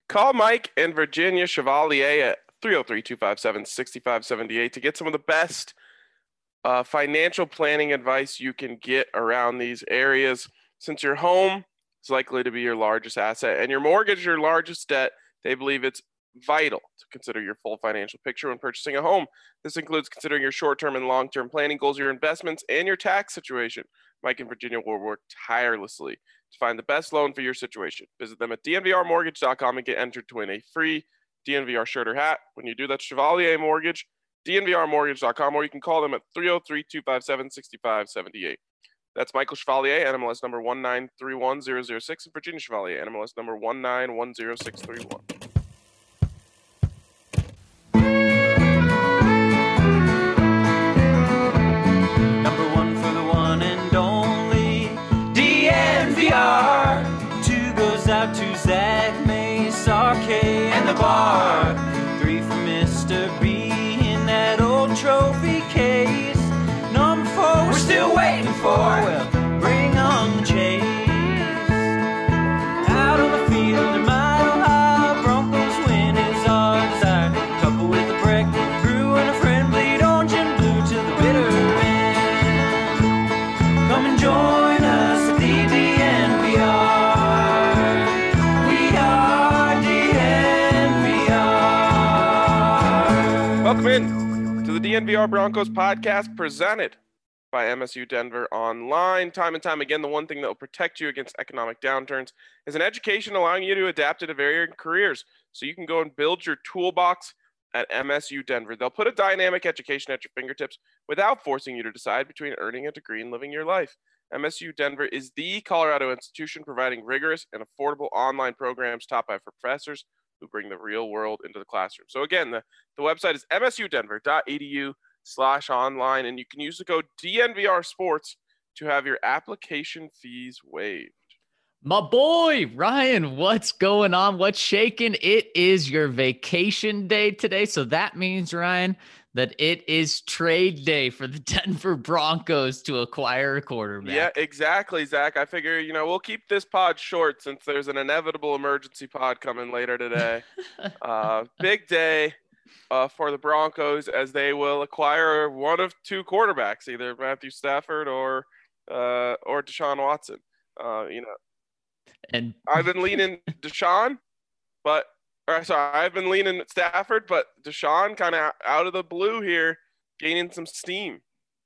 Call Mike and Virginia Chevalier at 303-257-6578 to get some of the best financial planning advice you can get around these areas. Since your home is likely to be your largest asset and your mortgage your largest debt, they believe it's vital to consider your full financial picture when purchasing a home. This includes considering your short-term and long-term planning goals, your investments, and your tax situation. Mike and Virginia will work tirelessly to find the best loan for your situation. Visit them at dnvrmortgage.com and get entered to win a free DNVR shirt or hat. When you do, that's Chevalier Mortgage, dnvrmortgage.com, or you can call them at 303-257-6578. That's Michael Chevalier, NMLS number 1931006, and Virginia Chevalier, NMLS number 1910631. Number one for the one and only DNVR. Two goes out to Zach Mace, RK, and the bar. Three for Mr. B in that old trophy case. Number four, we're still waiting for. Well, bring on the chase. Out on the field, a mile high, Broncos win is our desire. Couple with a break, brew and a friend, bleed orange and blue to the bitter end. Come and join us at the DNVR. We are DNVR. Welcome in to the DNVR Broncos podcast presented by MSU Denver Online. Time and time again, the one thing that will protect you against economic downturns is an education allowing you to adapt to varying careers so you can go and build your toolbox at MSU Denver. They'll put a dynamic education at your fingertips without forcing you to decide between earning a degree and living your life. MSU Denver is the Colorado institution providing rigorous and affordable online programs taught by professors who bring the real world into the classroom. So again, the website is msudenver.edu/online, and you can use the code DNVR Sports to have your application fees waived. My boy, Ryan, what's going on? What's shaking? It is your vacation day today. So that means, Ryan, that it is trade day for the Denver Broncos to acquire a quarterback. Yeah, exactly, Zach. I figure, we'll keep this pod short since there's an inevitable emergency pod coming later today. Big day for the Broncos as they will acquire one of two quarterbacks, either Matthew Stafford or Deshaun Watson. And I've been leaning Deshaun, I've been leaning Stafford, but Deshaun kind of out of the blue here, gaining some steam.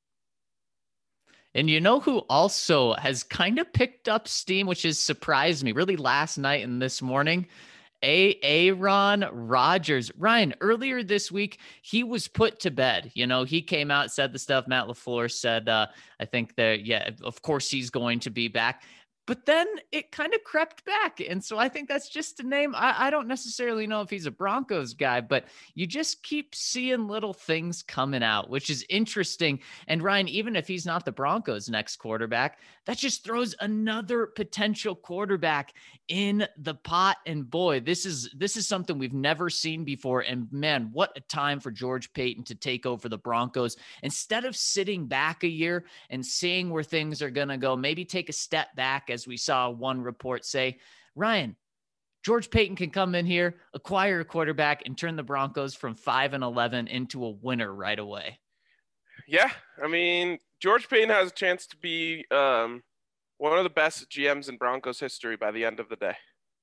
And you know who also has kind of picked up steam, which has surprised me really last night and this morning? Aaron Rodgers. Ryan, earlier this week, he was put to bed. He came out, said the stuff Matt LaFleur said. I think that, yeah, of course he's going to be back. But then it kind of crept back. And so I think that's just a name. I don't necessarily know if he's a Broncos guy, but you just keep seeing little things coming out, which is interesting. And Ryan, even if he's not the Broncos' next quarterback, that just throws another potential quarterback in the pot. And boy, this is something we've never seen before. And man, what a time for George Paton to take over the Broncos. Instead of sitting back a year and seeing where things are going to go, maybe take a step back, as we saw one report say. Ryan, George Paton can come in here, acquire a quarterback, and turn the Broncos from 5-11 into a winner right away. Yeah, I mean, George Paton has a chance to be one of the best GMs in Broncos history by the end of the day.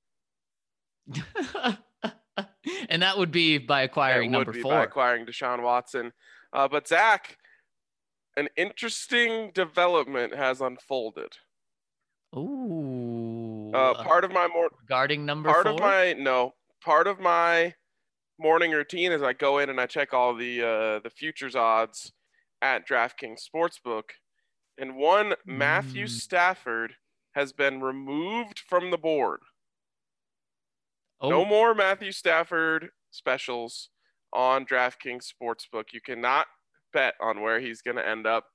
And that would be by acquiring number 4. By acquiring Deshaun Watson. But Zach, an interesting development has unfolded. Ooh. Part of my regarding number 4? Part of my morning routine is I go in and I check all the futures odds at DraftKings Sportsbook, and one Matthew Stafford has been removed from the board. Oh. No more Matthew Stafford specials on DraftKings Sportsbook. You cannot bet on where he's going to end up.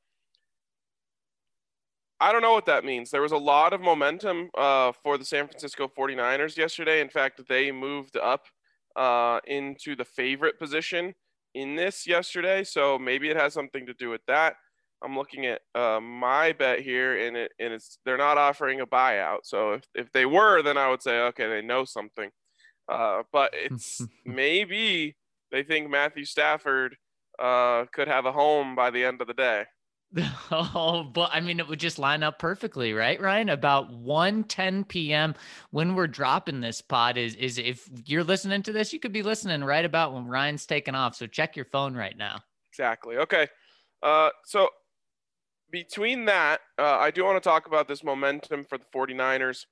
I don't know what that means. There was a lot of momentum for the San Francisco 49ers yesterday. In fact, they moved up into the favorite position in this yesterday. So maybe it has something to do with that. I'm looking at my bet here, and they're not offering a buyout. So if they were, then I would say, okay, they know something. But it's maybe they think Matthew Stafford could have a home by the end of the day. Oh, but I mean, it would just line up perfectly, right, Ryan? About 1:10 p.m. when we're dropping this pod is if you're listening to this, you could be listening right about when Ryan's taking off. So check your phone right now. Exactly. Okay. So between that, I do want to talk about this momentum for the 49ers.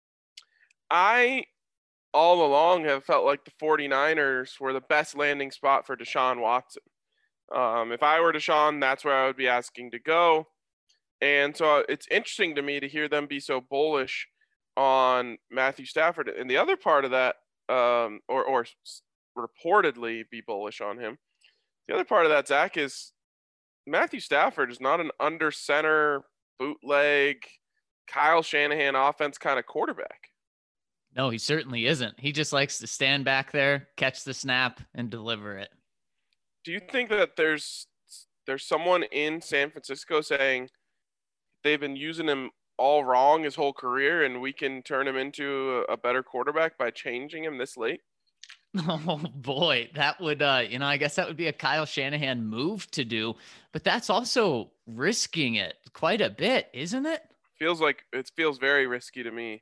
I all along have felt like the 49ers were the best landing spot for Deshaun Watson. If I were Deshaun, that's where I would be asking to go. And so it's interesting to me to hear them be so bullish on Matthew Stafford. And the other part of that, or reportedly be bullish on him. The other part of that, Zach, is Matthew Stafford is not an under center, bootleg, Kyle Shanahan offense kind of quarterback. No, he certainly isn't. He just likes to stand back there, catch the snap, and deliver it. Do you think that there's someone in San Francisco saying they've been using him all wrong his whole career and we can turn him into a better quarterback by changing him this late? Oh boy, that would I guess that would be a Kyle Shanahan move to do, but that's also risking it quite a bit, isn't it? It feels very risky to me.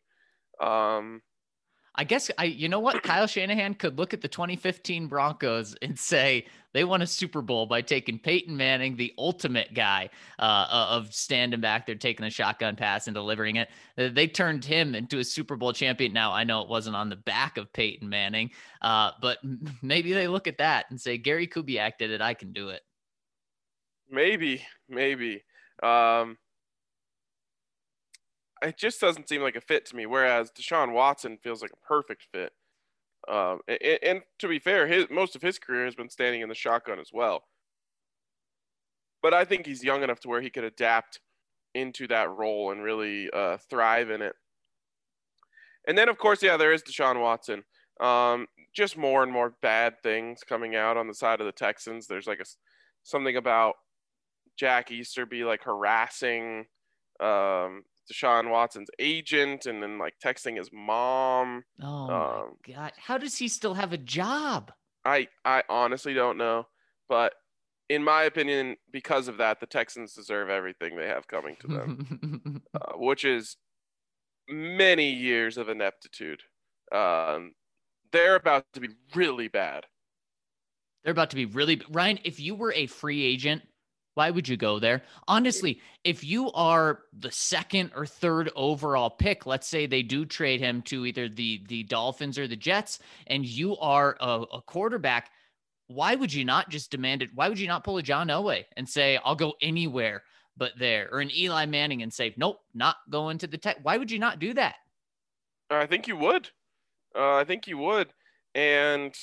I guess you know what? Kyle Shanahan could look at the 2015 Broncos and say they won a Super Bowl by taking Peyton Manning, the ultimate guy of standing back there, taking a shotgun pass and delivering it. They turned him into a Super Bowl champion. Now, I know it wasn't on the back of Peyton Manning, but maybe they look at that and say, Gary Kubiak did it. I can do it. Maybe. It just doesn't seem like a fit to me, whereas Deshaun Watson feels like a perfect fit. And to be fair, most of his career has been standing in the shotgun as well. But I think he's young enough to where he could adapt into that role and really thrive in it. And then, of course, there is Deshaun Watson. Just more and more bad things coming out on the side of the Texans. There's like something about Jack Easterby like harassing Deshaun Watson's agent and then like texting his mom. Oh my God. How does he still have a job? I honestly don't know. But in my opinion, because of that, the Texans deserve everything they have coming to them, which is many years of ineptitude. They're about to be really bad. Ryan, if you were a free agent, why would you go there? Honestly, if you are the second or third overall pick, let's say they do trade him to either the Dolphins or the Jets, and you are a quarterback, why would you not just demand it? Why would you not pull a John Elway and say, I'll go anywhere but there? Or an Eli Manning and say, nope, not going to the Tech. Why would you not do that? I think you would. And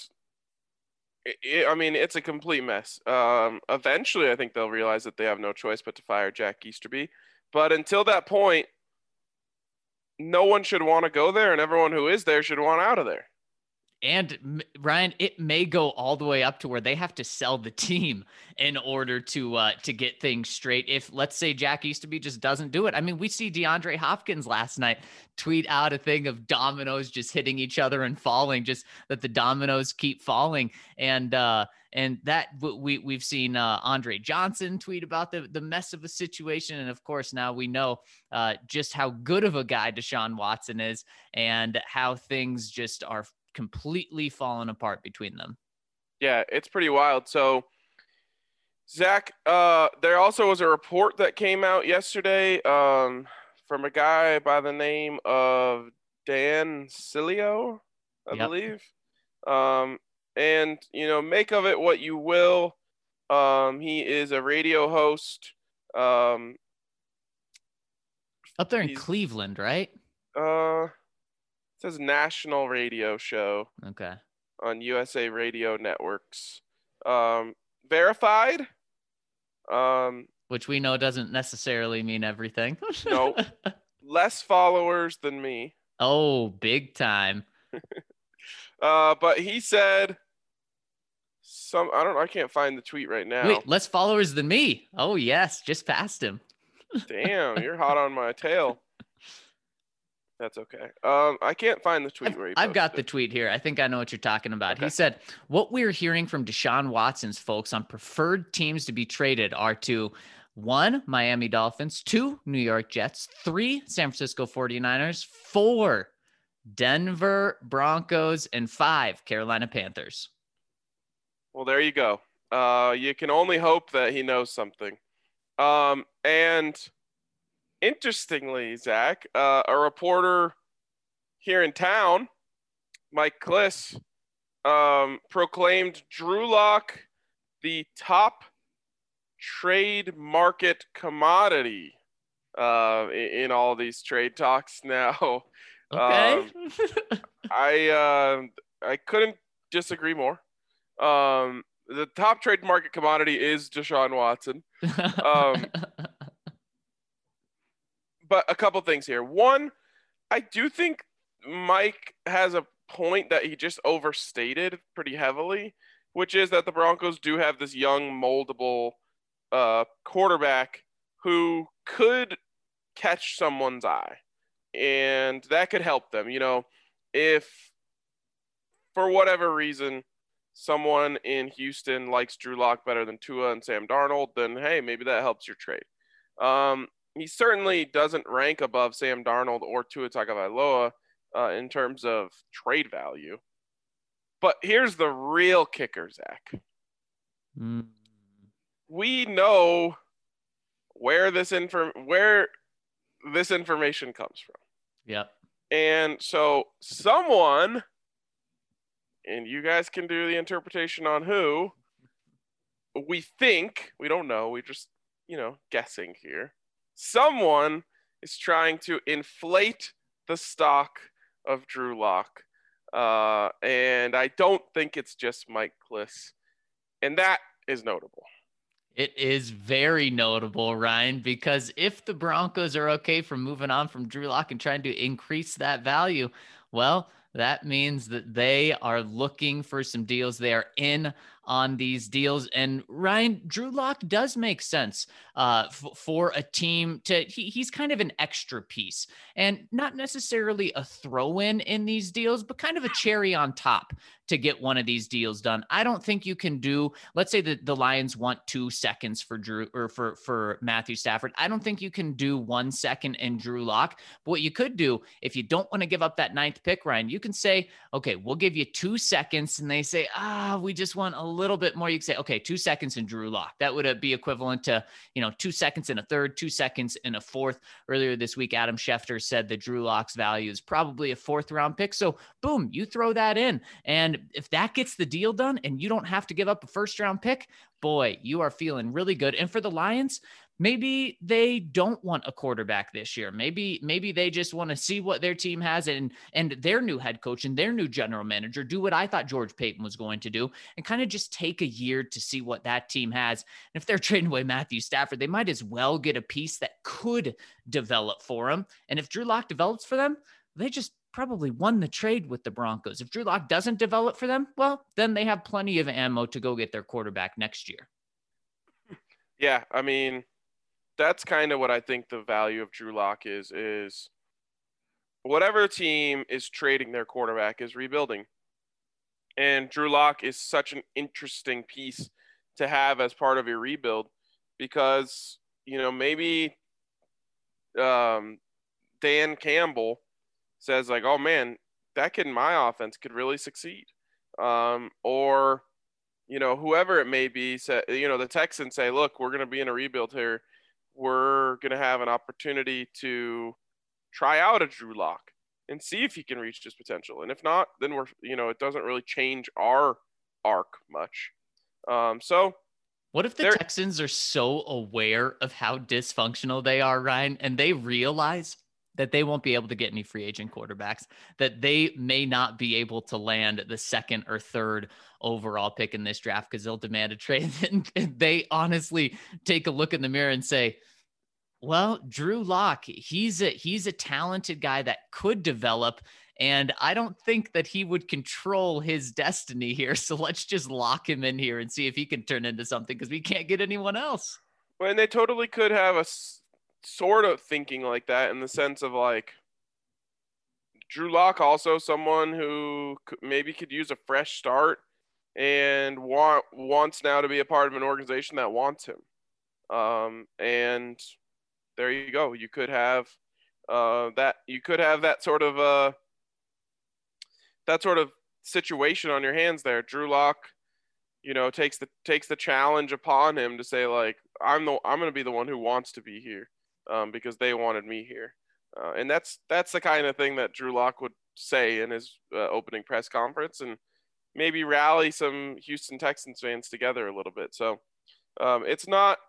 it's a complete mess. Eventually, I think they'll realize that they have no choice but to fire Jack Easterby. But until that point, no one should want to go there, and everyone who is there should want out of there. And Ryan, it may go all the way up to where they have to sell the team in order to get things straight. If, let's say, Jack Easterby just doesn't do it. I mean, we see DeAndre Hopkins last night tweet out a thing of dominoes just hitting each other and falling, just that the dominoes keep falling. And that we've seen Andre Johnson tweet about the mess of a situation. And of course, now we know just how good of a guy Deshaun Watson is and how things just are completely fallen apart between them. Yeah, it's pretty wild. So, Zach, there also was a report that came out yesterday from a guy by the name of Dan Sileo, I believe. And, make of it what you will. He is a radio host. Up there in Cleveland, right? It says national radio show. Okay. On USA Radio Networks. Verified. Which we know doesn't necessarily mean everything. No. Less followers than me. Oh, big time. But he said I can't find the tweet right now. Wait, less followers than me. Oh, yes. Just passed him. Damn, you're hot on my tail. That's okay. I can't find the tweet where he I've got the posted. tweet here. I think I know what you're talking about. Okay. He said, what we're hearing from Deshaun Watson's folks on preferred teams to be traded are to 1, Miami Dolphins, 2, New York Jets, 3, San Francisco 49ers, 4, Denver Broncos, and 5, Carolina Panthers. Well, there you go. You can only hope that he knows something. And interestingly, Zach, a reporter here in town, Mike Kliss, proclaimed Drew Lock the top trade market commodity in all these trade talks now. Okay. I couldn't disagree more. The top trade market commodity is Deshaun Watson. But a couple things here. One, I do think Mike has a point that he just overstated pretty heavily, which is that the Broncos do have this young, moldable quarterback who could catch someone's eye, and that could help them. If for whatever reason someone in Houston likes Drew Lock better than Tua and Sam Darnold, then hey, maybe that helps your trade. He certainly doesn't rank above Sam Darnold or Tua Tagovailoa in terms of trade value. But here's the real kicker, Zach. We know where this information comes from. Yep. And so someone, and you guys can do the interpretation on who, we think, we don't know, we just, guessing here. Someone is trying to inflate the stock of Drew Lock. And I don't think it's just Mike Kliss. And that is notable. It is very notable, Ryan, because if the Broncos are okay from moving on from Drew Lock and trying to increase that value, well, that means that they are looking for some deals. They are in on these deals. And Ryan, Drew Lock does make sense for a team he's kind of an extra piece and not necessarily a throw-in in these deals, but kind of a cherry on top to get one of these deals done. I don't think you can do, let's say that the Lions want 2 seconds for Drew or for Matthew Stafford. I don't think you can do 1 second in Drew Lock. But what you could do, if you don't want to give up that 9th pick, Ryan, you can say, okay, we'll give you 2 seconds. And they say, we just want a little bit more. You can say, okay, 2 seconds in Drew Lock. That would be equivalent to, 2 seconds in a third, 2 seconds in a fourth. Earlier this week, Adam Schefter said that Drew Lock's value is probably a 4th round pick. So boom, you throw that in. And if that gets the deal done and you don't have to give up a 1st round pick, boy, you are feeling really good. And for the Lions, maybe they don't want a quarterback this year. Maybe they just want to see what their team has and their new head coach and their new general manager do what I thought George Paton was going to do and kind of just take a year to see what that team has. And if they're trading away Matthew Stafford, they might as well get a piece that could develop for them. And if Drew Lock develops for them, they just probably won the trade with the Broncos. If Drew Lock doesn't develop for them, well, then they have plenty of ammo to go get their quarterback next year. Yeah, I mean, that's kind of what I think the value of Drew Lock is whatever team is trading their quarterback is rebuilding. And Drew Lock is such an interesting piece to have as part of your rebuild because, maybe Dan Campbell says like, oh man, that kid in my offense could really succeed. Or, whoever it may be, the Texans say, look, we're going to be in a rebuild here. We're going to have an opportunity to try out a Drew Lock and see if he can reach his potential. And if not, then it doesn't really change our arc much. So what if the Texans are so aware of how dysfunctional they are, Ryan, and they realize that they won't be able to get any free agent quarterbacks, that they may not be able to land the 2nd or 3rd overall pick in this draft because they'll demand a trade. And they honestly take a look in the mirror and say, well, Drew Lock, he's a talented guy that could develop. And I don't think that he would control his destiny here. So let's just lock him in here and see if he can turn into something because we can't get anyone else. Well, and they totally could have a sort of thinking like that in the sense of like, Drew Lock also someone who maybe could use a fresh start and wants now to be a part of an organization that wants him. And there you go. You could have that sort of situation on your hands there. Drew Lock, takes the challenge upon him to say, like, I'm going to be the one who wants to be here, because they wanted me here. And that's the kind of thing that Drew Lock would say in his opening press conference, and maybe rally some Houston Texans fans together a little bit. So it's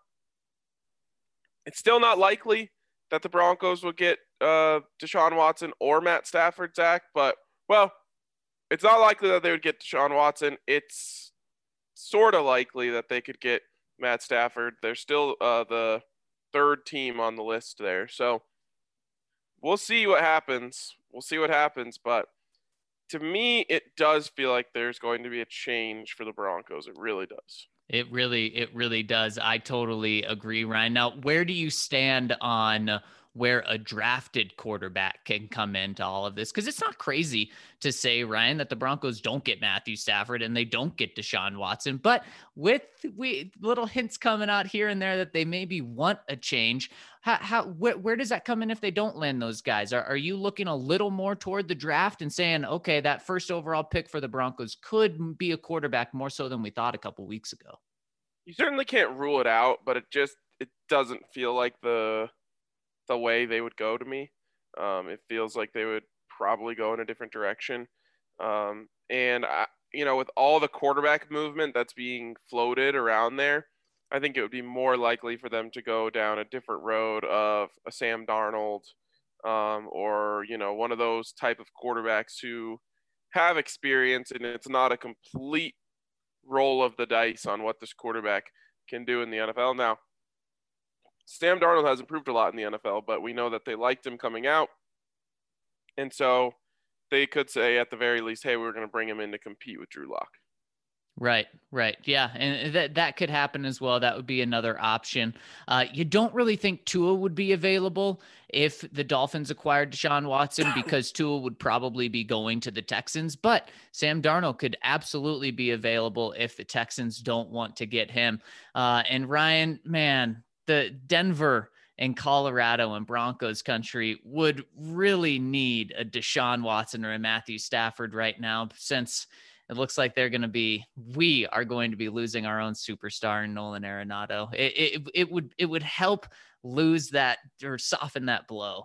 still not likely that the Broncos will get Deshaun Watson or Matt Stafford, Zach, but, well, it's not likely that they would get Deshaun Watson. It's sort of likely that they could get Matt Stafford. They're still the third team on the list there. So we'll see what happens. But to me, it does feel like there's going to be a change for the Broncos. It really does. It really does. I totally agree, Ryan. Now, where do you stand on where a drafted quarterback can come into all of this? Because it's not crazy to say, Ryan, that the Broncos don't get Matthew Stafford and they don't get Deshaun Watson, but with little hints coming out here and there that they maybe want a change. Where does that come in if they don't land those guys? Are you looking a little more toward the draft and saying, okay, that first overall pick for the Broncos could be a quarterback more so than we thought a couple weeks ago? You certainly can't rule it out, but it doesn't feel like the way they would go to me. It feels like they would probably go in a different direction. And with all the quarterback movement that's being floated around there, I think it would be more likely for them to go down a different road of a Sam Darnold, or one of those type of quarterbacks who have experience, and it's not a complete roll of the dice on what this quarterback can do in the NFL. Now, Sam Darnold has improved a lot in the NFL, but we know that they liked him coming out. And so they could say at the very least, hey, we're going to bring him in to compete with Drew Lock. Right. Yeah. And that could happen as well. That would be another option. You don't really think Tua would be available if the Dolphins acquired Deshaun Watson, because Tua would probably be going to the Texans, but Sam Darnold could absolutely be available if the Texans don't want to get him. And Ryan, man, the Denver and Colorado and Broncos country would really need a Deshaun Watson or a Matthew Stafford right now, since it looks like we are going to be losing our own superstar in Nolan Arenado. It would help lose that or soften that blow.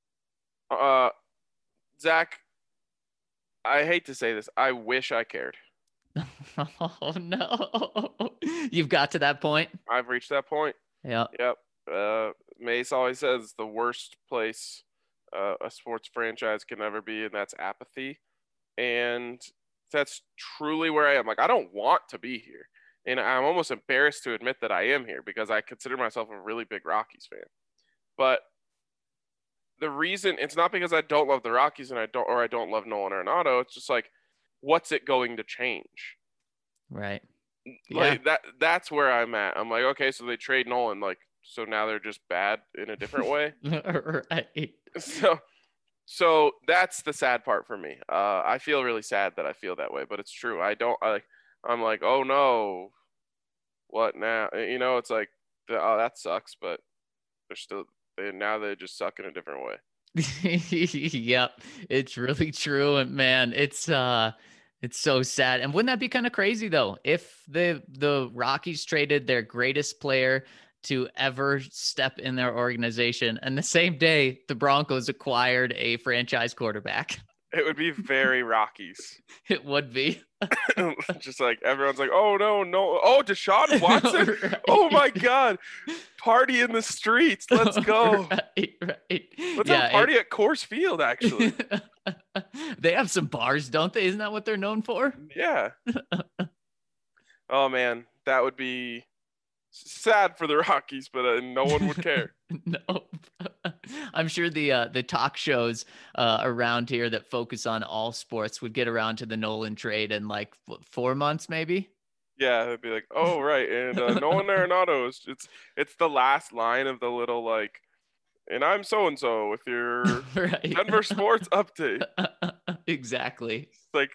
Zach, I hate to say this. I wish I cared. Oh no. You've got to that point. I've reached that point. Yep. Mace always says the worst place a sports franchise can ever be, and that's apathy. And that's truly where I am. Like, I don't want to be here. And I'm almost embarrassed to admit that I am here, because I consider myself a really big Rockies fan. But the reason, it's not because I don't love the Rockies and I don't love Nolan Arenado. It's just like, what's it going to change? Right. Like that's where I'm at. I'm like, okay, so they trade Nolan, like, so now they're just bad in a different way. Right. So that's the sad part for me. I feel really sad that I feel that way, but it's true. I'm like, oh no, what now? It's like, oh, that sucks, but they just suck in a different way. Yep, it's really true. And man, it's so sad. And wouldn't that be kind of crazy though, if the Rockies traded their greatest player to ever step in their organization, and the same day the Broncos acquired a franchise quarterback? It would be very Rockies. It would be. Just like everyone's like, oh no, oh, Deshaun Watson. Right. Oh my God, party in the streets. Let's go. Right. Let's have a party at Coors Field. Actually, they have some bars, don't they? Isn't that what they're known for? Yeah. Oh man, that would be sad for the Rockies, but no one would care. No. I'm sure the talk shows around here that focus on all sports would get around to the Nolan trade in like 4 months, maybe. Yeah, it'd be like, oh right, and Nolan Arenado it's the last line of the little like And I'm so-and-so with your Right. Denver sports update. Exactly. Like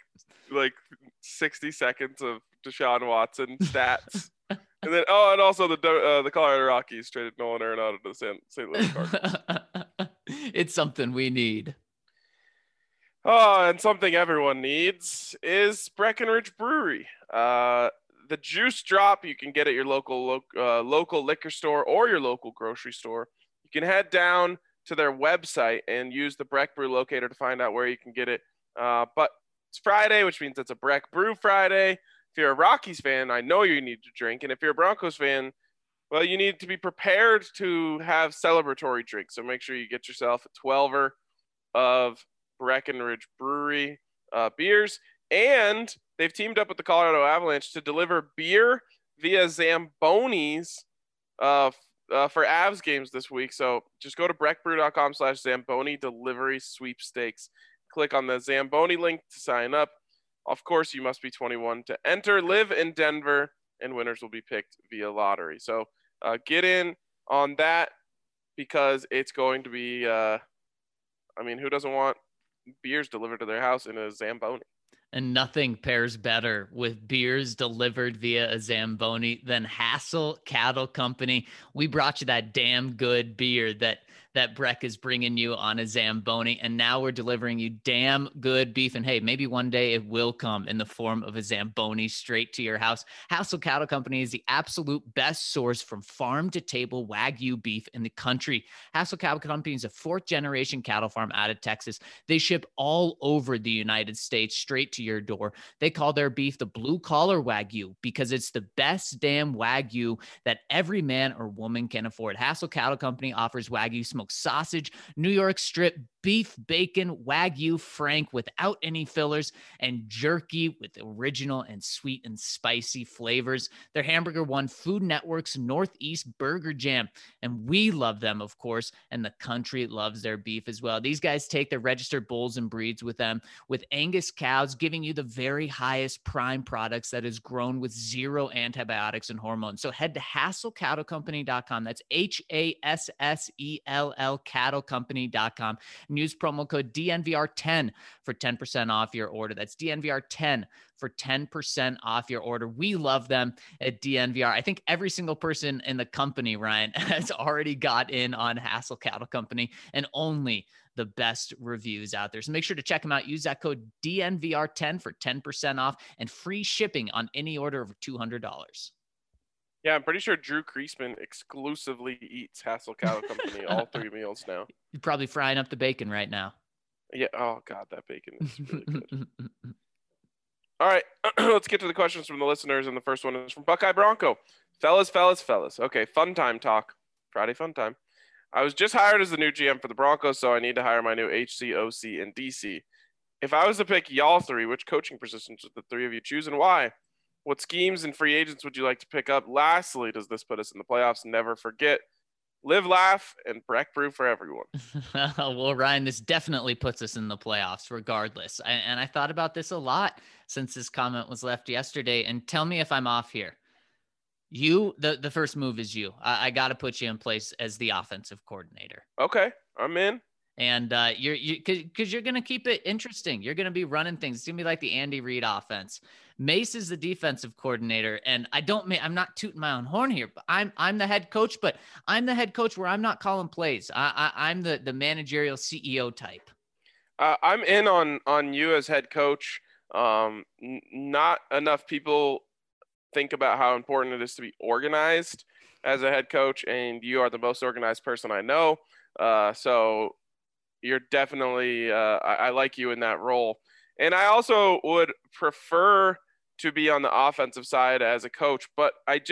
60 seconds of Deshaun Watson stats. And then, and also the Colorado Rockies traded Nolan Arenado to the St. Louis Cardinals. It's something we need. Oh, and something everyone needs is Breckenridge Brewery. The juice drop you can get at your local liquor store or your local grocery store. You can head down to their website and use the Breck Brew locator to find out where you can get it. But it's Friday, which means it's a Breck Brew Friday. If you're a Rockies fan, I know you need to drink. And if you're a Broncos fan, well, you need to be prepared to have celebratory drinks. So make sure you get yourself a 12er of Breckenridge Brewery beers. And they've teamed up with the Colorado Avalanche to deliver beer via Zambonis for Avs games this week. So just go to breckbrew.com/Zamboni delivery sweepstakes. Click on the Zamboni link to sign up. Of course, you must be 21 to enter, live in Denver, and winners will be picked via lottery. So get in on that because it's going to be, who doesn't want beers delivered to their house in a Zamboni? And nothing pairs better with beers delivered via a Zamboni than Hassel Cattle Company. We brought you that damn good beer that Breck is bringing you on a Zamboni, and now we're delivering you damn good beef. And hey, maybe one day it will come in the form of a Zamboni straight to your house. Hassel Cattle Company is the absolute best source from farm to table Wagyu beef in the country. Hassel Cattle Company is a 4th-generation cattle farm out of Texas. They ship all over the United States straight to your door. They call their beef the blue collar Wagyu because it's the best damn Wagyu that every man or woman can afford. Hassel Cattle Company offers Wagyu smoked sausage, New York strip, beef, bacon, Wagyu Frank without any fillers, and jerky with original and sweet and spicy flavors. Their hamburger won Food Network's Northeast Burger Jam, and we love them, of course, and the country loves their beef as well. These guys take their registered bulls and breeds with them, with Angus cows, giving you the very highest prime products that is grown with zero antibiotics and hormones. So head to HassellCattleCompany.com. That's HASSELL cattlecompany.com. and use promo code DNVR10 for 10% off your order. That's DNVR10 for 10% off your order. We love them at DNVR. I think every single person in the company, Ryan, has already got in on Hassel Cattle Company, and only the best reviews out there. So make sure to check them out. Use that code DNVR10 for 10% off and free shipping on any order over $200. Yeah, I'm pretty sure Drew Kreisman exclusively eats Hassel Cattle Company all 3 meals now. You're probably frying up the bacon right now. Yeah. Oh, God, that bacon is really good. All right, let's get to the questions from the listeners. And the first one is from Buckeye Bronco. Fellas. Okay, fun time talk. Friday fun time. I was just hired as the new GM for the Broncos, so I need to hire my new HC, OC, and DC. If I was to pick y'all 3, which coaching positions would the 3 of you choose and why? What schemes and free agents would you like to pick up? Lastly, does this put us in the playoffs? Never forget, live, laugh, and Breck Brew for everyone. Well, Ryan, this definitely puts us in the playoffs regardless. And I thought about this a lot since this comment was left yesterday. And tell me if I'm off here. The first move is you. I got to put you in place as the offensive coordinator. Okay, I'm in. And because you're going to keep it interesting. You're going to be running things. It's going to be like the Andy Reid offense. Mace is the defensive coordinator. And I'm not tooting my own horn here, but I'm the head coach, but I'm the head coach where I'm not calling plays. I'm the managerial CEO type. I'm in on you as head coach. Not enough people think about how important it is to be organized as a head coach, and you are the most organized person I know. So you're definitely, I like you in that role. And I also would prefer to be on the offensive side as a coach, but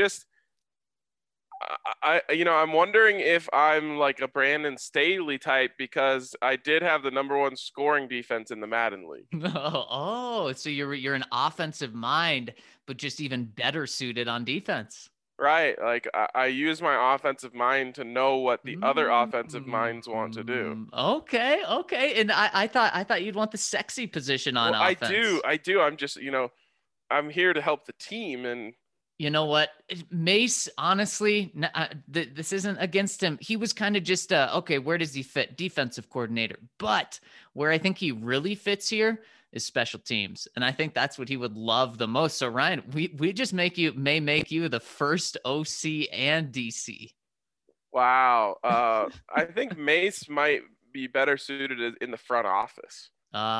I'm wondering if I'm like a Brandon Staley type, because I did have the #1 scoring defense in the Madden League. Oh, so you're an offensive mind, but just even better suited on defense. Right. Like I use my offensive mind to know what the other offensive minds want to do. Okay. And I thought you'd want the sexy position on offense. I do. I'm just, I'm here to help the team, and You know what? Mace, honestly, this isn't against him. He was kind of just, okay, where does he fit? Defensive coordinator. But where I think he really fits here is special teams. And I think that's what he would love the most. So, Ryan, we just may make you the first OC and DC. Wow. I think Mace might be better suited in the front office.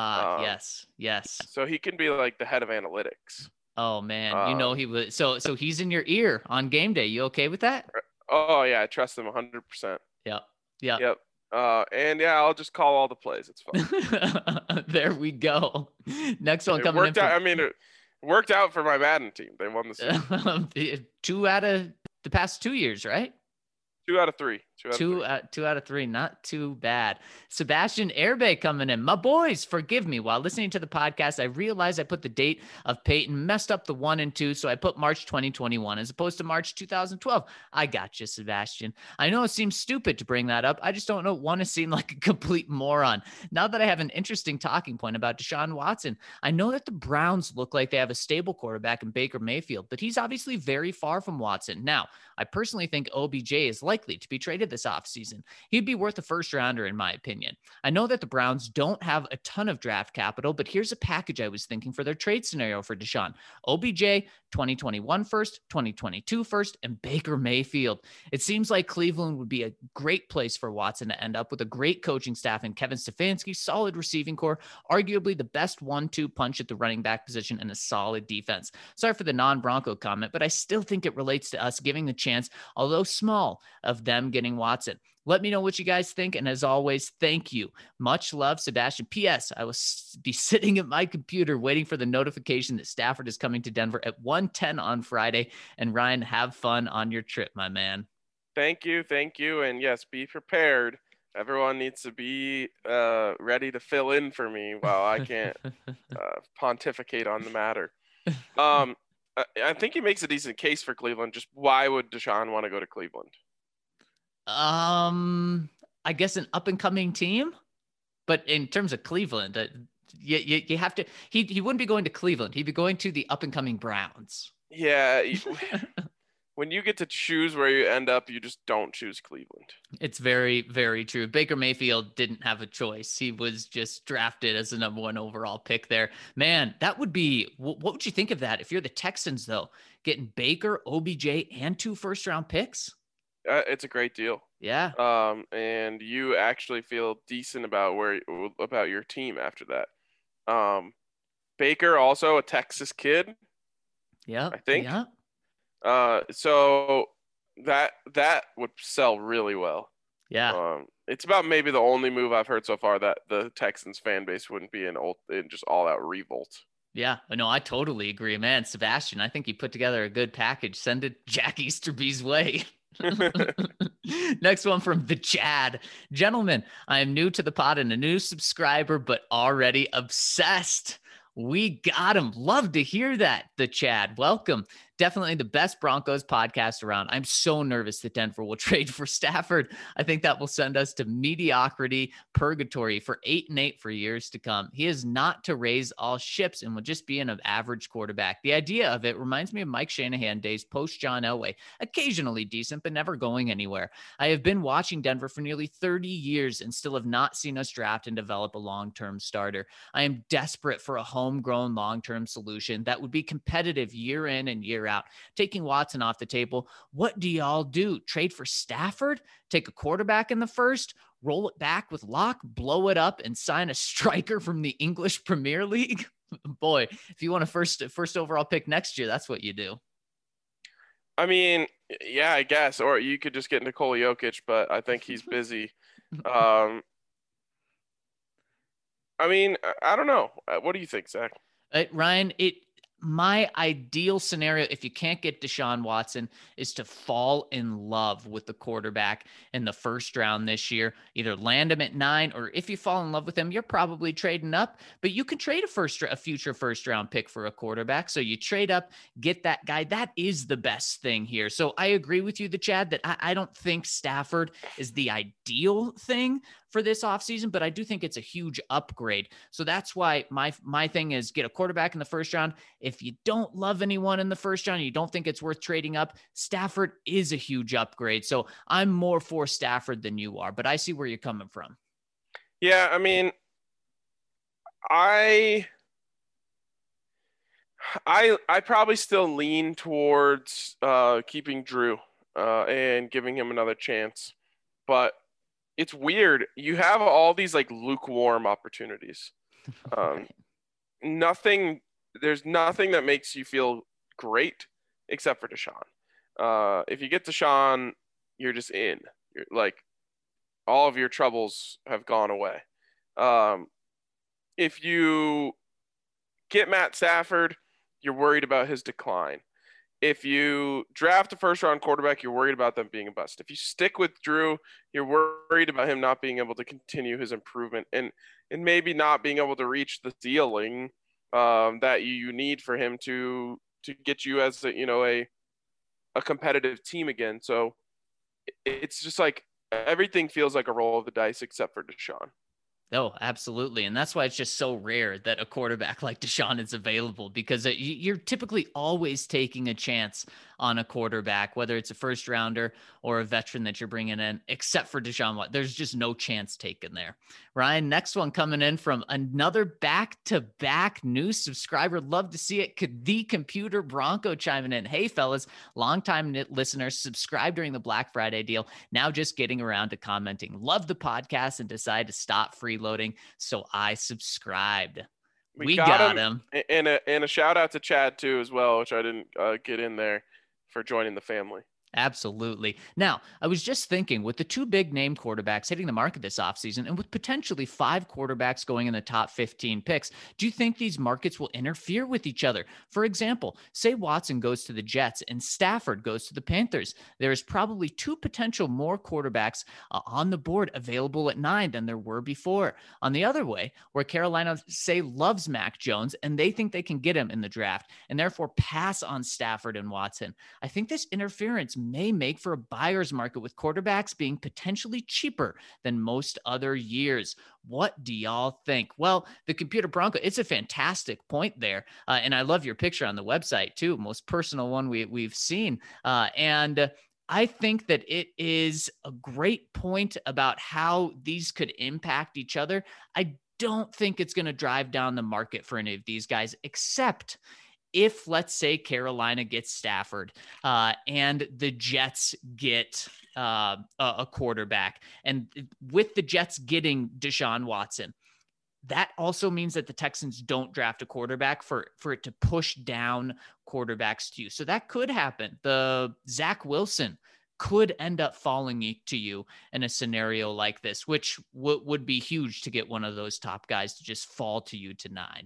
Yes. So he can be like the head of analytics. Oh man, you know he was so he's in your ear on game day. You okay with that? Oh yeah, I trust him 100%. Yep. And yeah, I'll just call all the plays. It's fine. There we go. Next one coming worked out. I mean, it worked out for my Madden team. They won the season. 2 out of the past 2 years, right? 2 out of 3. 2 out of 3. Not too bad. Sebastian Airbay coming in. My boys, forgive me. While listening to the podcast, I realized I put the date of Peyton, messed up the 1 and 2. So I put March 2021 as opposed to March 2012. I got you, Sebastian. I know it seems stupid to bring that up. I just don't want to seem like a complete moron. Now that I have an interesting talking point about Deshaun Watson, I know that the Browns look like they have a stable quarterback in Baker Mayfield, but he's obviously very far from Watson. Now, I personally think OBJ is likely to be traded this offseason. He'd be worth a first rounder, in my opinion. I know that the Browns don't have a ton of draft capital, but here's a package I was thinking for their trade scenario for Deshaun. OBJ, 2021 first, 2022 first, and Baker Mayfield. It seems like Cleveland would be a great place for Watson to end up with a great coaching staff and Kevin Stefanski, solid receiving core, arguably the best 1-2 punch at the running back position, and a solid defense. Sorry for the non-Bronco comment, but I still think it relates to us giving the chance, although small, of them getting Watson. Let me know what you guys think. And as always, thank you. Much love, Sebastian. P.S. I will be sitting at my computer waiting for the notification that Stafford is coming to Denver at 1:10 on Friday. And Ryan, have fun on your trip, my man. Thank you. And yes, be prepared. Everyone needs to be ready to fill in for me while I can't pontificate on the matter. I think he makes a decent case for Cleveland. Just why would Deshaun want to go to Cleveland? I guess an up and coming team, but in terms of Cleveland, you have to, he wouldn't be going to Cleveland. He'd be going to the up and coming Browns. Yeah. When you get to choose where you end up, you just don't choose Cleveland. It's very, very true. Baker Mayfield didn't have a choice. He was just drafted as the number 1 overall pick there. Man, that would be, what would you think of that? If you're the Texans though, getting Baker, OBJ, and 2 first-round picks? It's a great deal. Yeah. And you actually feel decent about your team after that. Baker, also a Texas kid. Yeah. I think. Yeah. So that would sell really well. Yeah. It's about maybe the only move I've heard so far that the Texans fan base wouldn't be in just all out revolt. Yeah, no, I totally agree, man. Sebastian, I think you put together a good package. Send it Jack Easterby's way. Next one from the Chad. Gentlemen, I am new to the pod and a new subscriber, but already obsessed. We got him. Love to hear that. The Chad. Welcome. Definitely the best Broncos podcast around. I'm so nervous that Denver will trade for Stafford. I think that will send us to mediocrity purgatory for 8-8 for years to come. He is not to raise all ships and will just be an average quarterback. The idea of it reminds me of Mike Shanahan days post John Elway. Occasionally decent, but never going anywhere. I have been watching Denver for nearly 30 years and still have not seen us draft and develop a long-term starter. I am desperate for a homegrown long-term solution that would be competitive year in and year out. Taking Watson off the table, what do y'all do? Trade for Stafford? Take a quarterback in the first? Roll it back with Locke? Blow it up and sign a striker from the English Premier League? Boy, if you want a first overall pick next year, that's what you do. I mean, yeah, I guess. Or you could just get Nikola Jokic, but I think he's busy. I mean, I don't know. What do you think, Zach? Ryan, my ideal scenario, if you can't get Deshaun Watson, is to fall in love with the quarterback in the first round this year. Either land him at 9, or if you fall in love with him, you're probably trading up. But you can trade a future first round pick for a quarterback. So you trade up, get that guy. That is the best thing here. So I agree with you, the Chad, that I don't think Stafford is the ideal thing for this offseason, but I do think it's a huge upgrade. So that's why my thing is get a quarterback in the first round. if you don't love anyone in the first round, you don't think it's worth trading up, Stafford is a huge upgrade. So I'm more for Stafford than you are, but I see where you're coming from. Yeah, I mean, I I probably still lean towards keeping Drew and giving him another chance. But it's weird. You have all these like lukewarm opportunities. Um, nothing. There's nothing that makes you feel great except for Deshaun. If you get Deshaun, you're just in. You're like all of your troubles have gone away. Um, if you get Matt Stafford, you're worried about his decline. If you draft a first round quarterback, you're worried about them being a bust. If you stick with Drew, you're worried about him not being able to continue his improvement and maybe not being able to reach the ceiling that you need for him to get you as a competitive team again. So it's just like everything feels like a roll of the dice except for Deshaun. Oh, absolutely. And that's why it's just so rare that a quarterback like Deshaun is available, because you're typically always taking a chance on a quarterback, whether it's a first rounder or a veteran that you're bringing in, except for Deshaun Watson. There's just no chance taken there. Ryan, next one coming in from another back-to-back new subscriber. Love to see it. The Computer Bronco chiming in. Hey, fellas, longtime listeners, subscribe during the Black Friday deal. Now just getting around to commenting. Love the podcast and decided to stop freeloading, so I subscribed. We got him. And a shout out to Chad too as well, which I didn't get in there, for joining the family. Absolutely. Now, I was just thinking, with the two big name quarterbacks hitting the market this offseason and with potentially 5 quarterbacks going in the top 15 picks, do you think these markets will interfere with each other? For example, say Watson goes to the Jets and Stafford goes to the Panthers. There is probably 2 potential more quarterbacks on the board available at 9 than there were before. On the other way, where Carolina, say, loves Mac Jones and they think they can get him in the draft and therefore pass on Stafford and Watson, I think this interference may make for a buyer's market with quarterbacks being potentially cheaper than most other years. What do y'all think? Well, the Computer Bronco, it's a fantastic point there. And I love your picture on the website too. Most personal one we've seen. And I think that it is a great point about how these could impact each other. I don't think it's going to drive down the market for any of these guys, except if, let's say, Carolina gets Stafford and the Jets get a quarterback, and with the Jets getting Deshaun Watson, that also means that the Texans don't draft a quarterback for it to push down quarterbacks to you. So that could happen. The Zach Wilson could end up falling to you in a scenario like this, which would be huge to get one of those top guys to just fall to you to 9.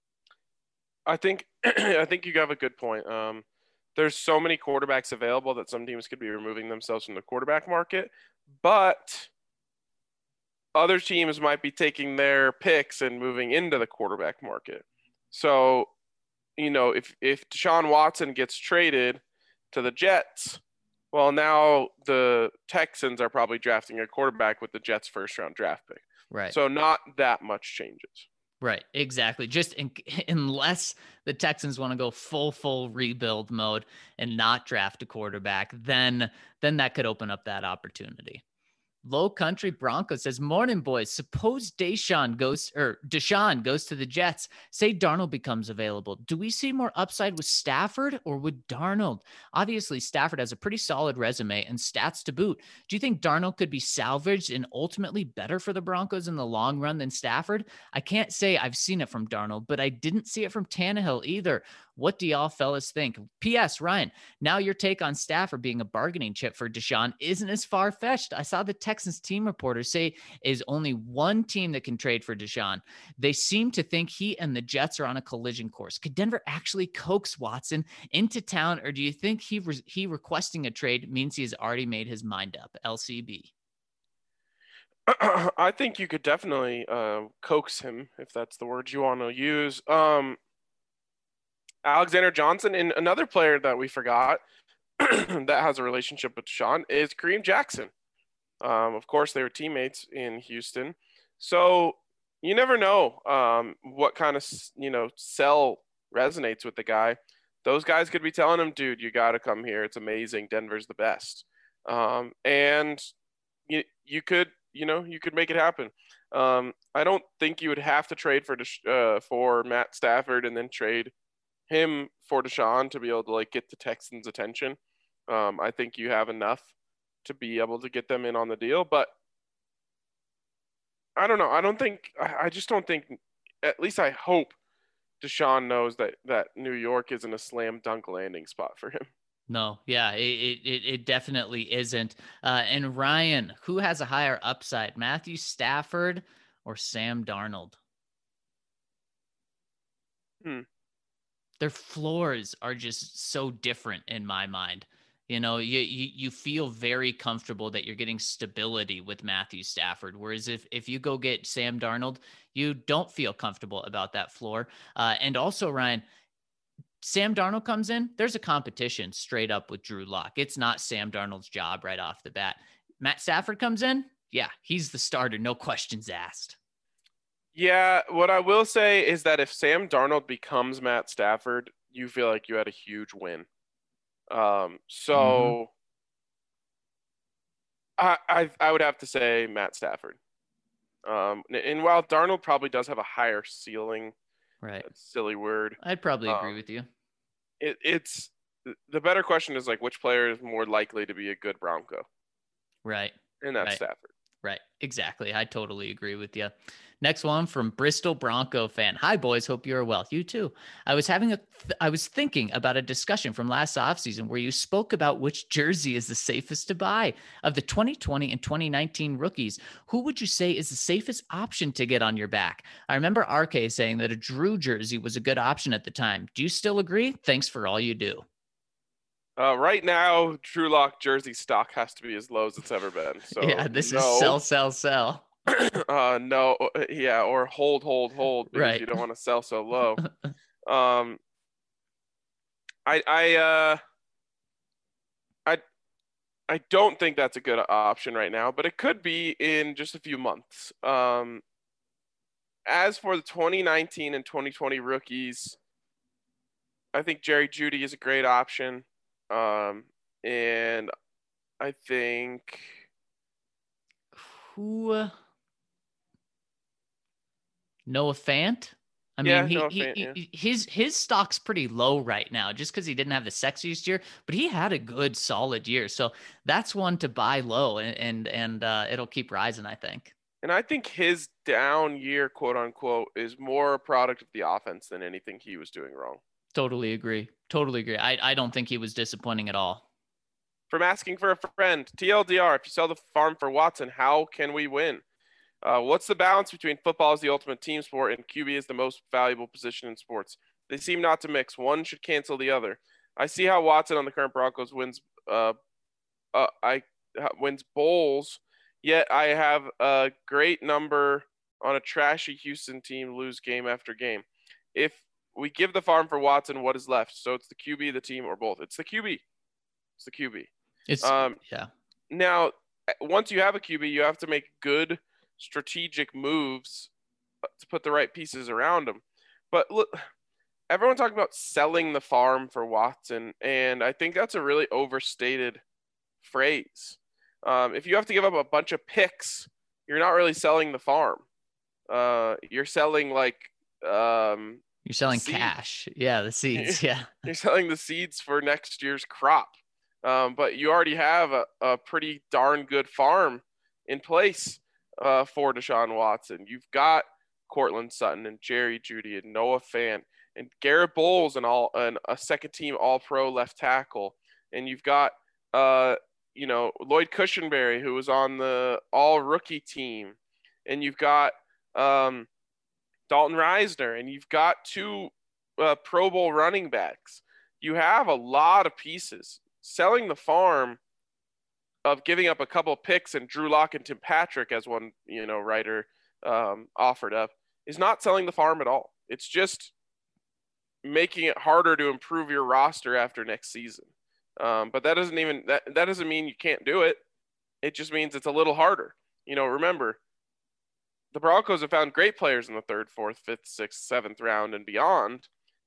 I think you have a good point. There's so many quarterbacks available that some teams could be removing themselves from the quarterback market, but other teams might be taking their picks and moving into the quarterback market. So, if Deshaun Watson gets traded to the Jets, well, now the Texans are probably drafting a quarterback with the Jets' first-round draft pick. Right. So not that much changes. Right, exactly. Just unless the Texans want to go full rebuild mode and not draft a quarterback, then that could open up that opportunity. Low Country Bronco says, morning, boys. Suppose Deshaun goes to the Jets. Say Darnold becomes available. Do we see more upside with Stafford or with Darnold? Obviously, Stafford has a pretty solid resume and stats to boot. Do you think Darnold could be salvaged and ultimately better for the Broncos in the long run than Stafford? I can't say I've seen it from Darnold, but I didn't see it from Tannehill either. What do y'all fellas think? P.S. Ryan, now your take on Stafford being a bargaining chip for Deshaun isn't as far-fetched. I saw the Texans team reporters say is only one team that can trade for Deshaun. They seem to think he and the Jets are on a collision course. Could Denver actually coax Watson into town, or do you think he requesting a trade means he has already made his mind up? LCB. I think you could definitely coax him, if that's the word you want to use. Alexander Johnson, and another player that we forgot that has a relationship with Deshaun is Kareem Jackson. Of course, they were teammates in Houston. So you never know what kind of, sell resonates with the guy, those guys could be telling him, dude, you got to come here. It's amazing. Denver's the best. And you could make it happen. I don't think you would have to trade for Matt Stafford and then trade him for Deshaun to be able to like get the Texans' attention. I think you have enough to be able to get them in on the deal, but I don't know. I just don't think, at least I hope Deshaun knows that New York isn't a slam dunk landing spot for him. No, yeah, it definitely isn't. And Ryan, who has a higher upside, Matthew Stafford or Sam Darnold? Their floors are just so different in my mind. You know, you feel very comfortable that you're getting stability with Matthew Stafford. Whereas if you go get Sam Darnold, you don't feel comfortable about that floor. And also, Ryan, Sam Darnold comes in, there's a competition straight up with Drew Lock. It's not Sam Darnold's job right off the bat. Matt Stafford comes in, yeah, he's the starter, no questions asked. Yeah, what I will say is that if Sam Darnold becomes Matt Stafford, you feel like you had a huge win. So I would have to say Matt Stafford. And while Darnold probably does have a higher ceiling, right? Silly word. I'd probably agree with you. It's the better question is like which player is more likely to be a good Bronco, right? And that's Stafford. Right. Exactly. I totally agree with you. Next one from Bristol Bronco fan. Hi, boys. Hope you're well. You too. I was thinking about a discussion from last offseason where you spoke about which jersey is the safest to buy. Of the 2020 and 2019 rookies, who would you say is the safest option to get on your back? I remember RK saying that a Drew jersey was a good option at the time. Do you still agree? Thanks for all you do. Right now, Drew Lock jersey stock has to be as low as it's ever been. So yeah, this is sell. No, yeah, or hold because right. you don't want to sell so low. I don't think that's a good option right now, but it could be in just a few months. As for the 2019 and 2020 rookies, I think Jerry Jeudy is a great option. And I think Noah Fant. I mean, his stock's pretty low right now just because he didn't have the sexiest year, but he had a good solid year. So that's one to buy low and it'll keep rising, I think. And I think his down year, quote unquote, is more a product of the offense than anything he was doing wrong. Totally agree. I don't think he was disappointing at all. From asking for a friend, TLDR, if you sell the farm for Watson, how can we win? What's the balance between football as the ultimate team sport and QB is the most valuable position in sports? They seem not to mix. One should cancel the other. I see how Watson on the current Broncos wins bowls, yet I have a great number on a trashy Houston team lose game after game. If we give the farm for Watson, what is left? So it's the QB, the team, or both. It's the QB. Yeah. Now, once you have a QB, you have to make good strategic moves to put the right pieces around him. But look, everyone talking about selling the farm for Watson, and I think that's a really overstated phrase. If you have to give up a bunch of picks, you're not really selling the farm. You're selling you're selling cash. Yeah, the seeds. Yeah. You're selling the seeds for next year's crop. But you already have a pretty darn good farm in place for Deshaun Watson. You've got Courtland Sutton and Jerry Jeudy and Noah Fant and Garrett Bowles and a second team All-Pro left tackle. And you've got Lloyd Cushenberry, who was on the All-Rookie team. And you've got Dalton Risner, and you've got two Pro Bowl running backs. You have a lot of pieces. Selling the farm of giving up a couple of picks and Drew Lock and Tim Patrick, as one writer offered up, is not selling the farm at all. It's just making it harder to improve your roster after next season. But that doesn't mean you can't do it. It just means it's a little harder. Remember, the Broncos have found great players in the 3rd, 4th, 5th, 6th, 7th round and beyond.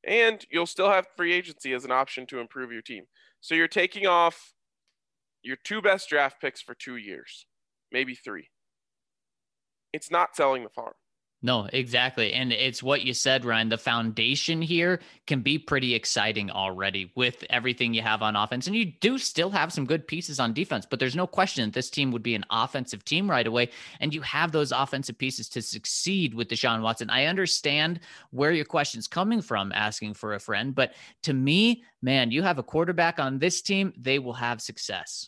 And you'll still have free agency as an option to improve your team. So you're taking off your 2 best draft picks for 2 years, maybe 3. It's not selling the farm. No, exactly. And it's what you said, Ryan. The foundation here can be pretty exciting already with everything you have on offense. And you do still have some good pieces on defense, but there's no question that this team would be an offensive team right away. And you have those offensive pieces to succeed with Deshaun Watson. I understand where your question's coming from, asking for a friend. But to me, man, you have a quarterback on this team, they will have success.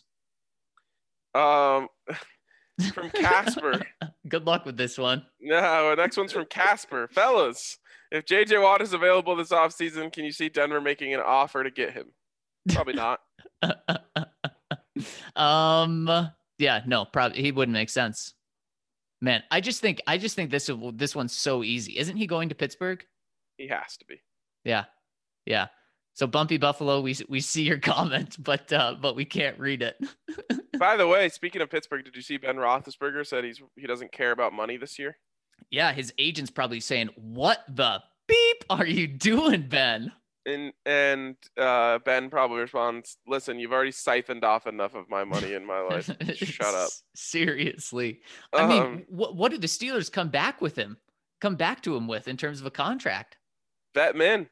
From Casper. Good luck with this one. No, next one's from Casper. Fellas, if J.J. Watt is available this offseason, can you see Denver making an offer to get him? Probably not. Yeah, no, probably he wouldn't make sense. Man, I just think this one's so easy. Isn't he going to Pittsburgh? He has to be. Yeah. So Bumpy Buffalo, we see your comment, but we can't read it. By the way, speaking of Pittsburgh, did you see Ben Roethlisberger said he doesn't care about money this year? Yeah, his agent's probably saying, "What the beep are you doing, Ben?" And Ben probably responds, "Listen, you've already siphoned off enough of my money in my life. Shut up." Seriously. I mean, what did the Steelers come back to him with in terms of a contract? Vet men.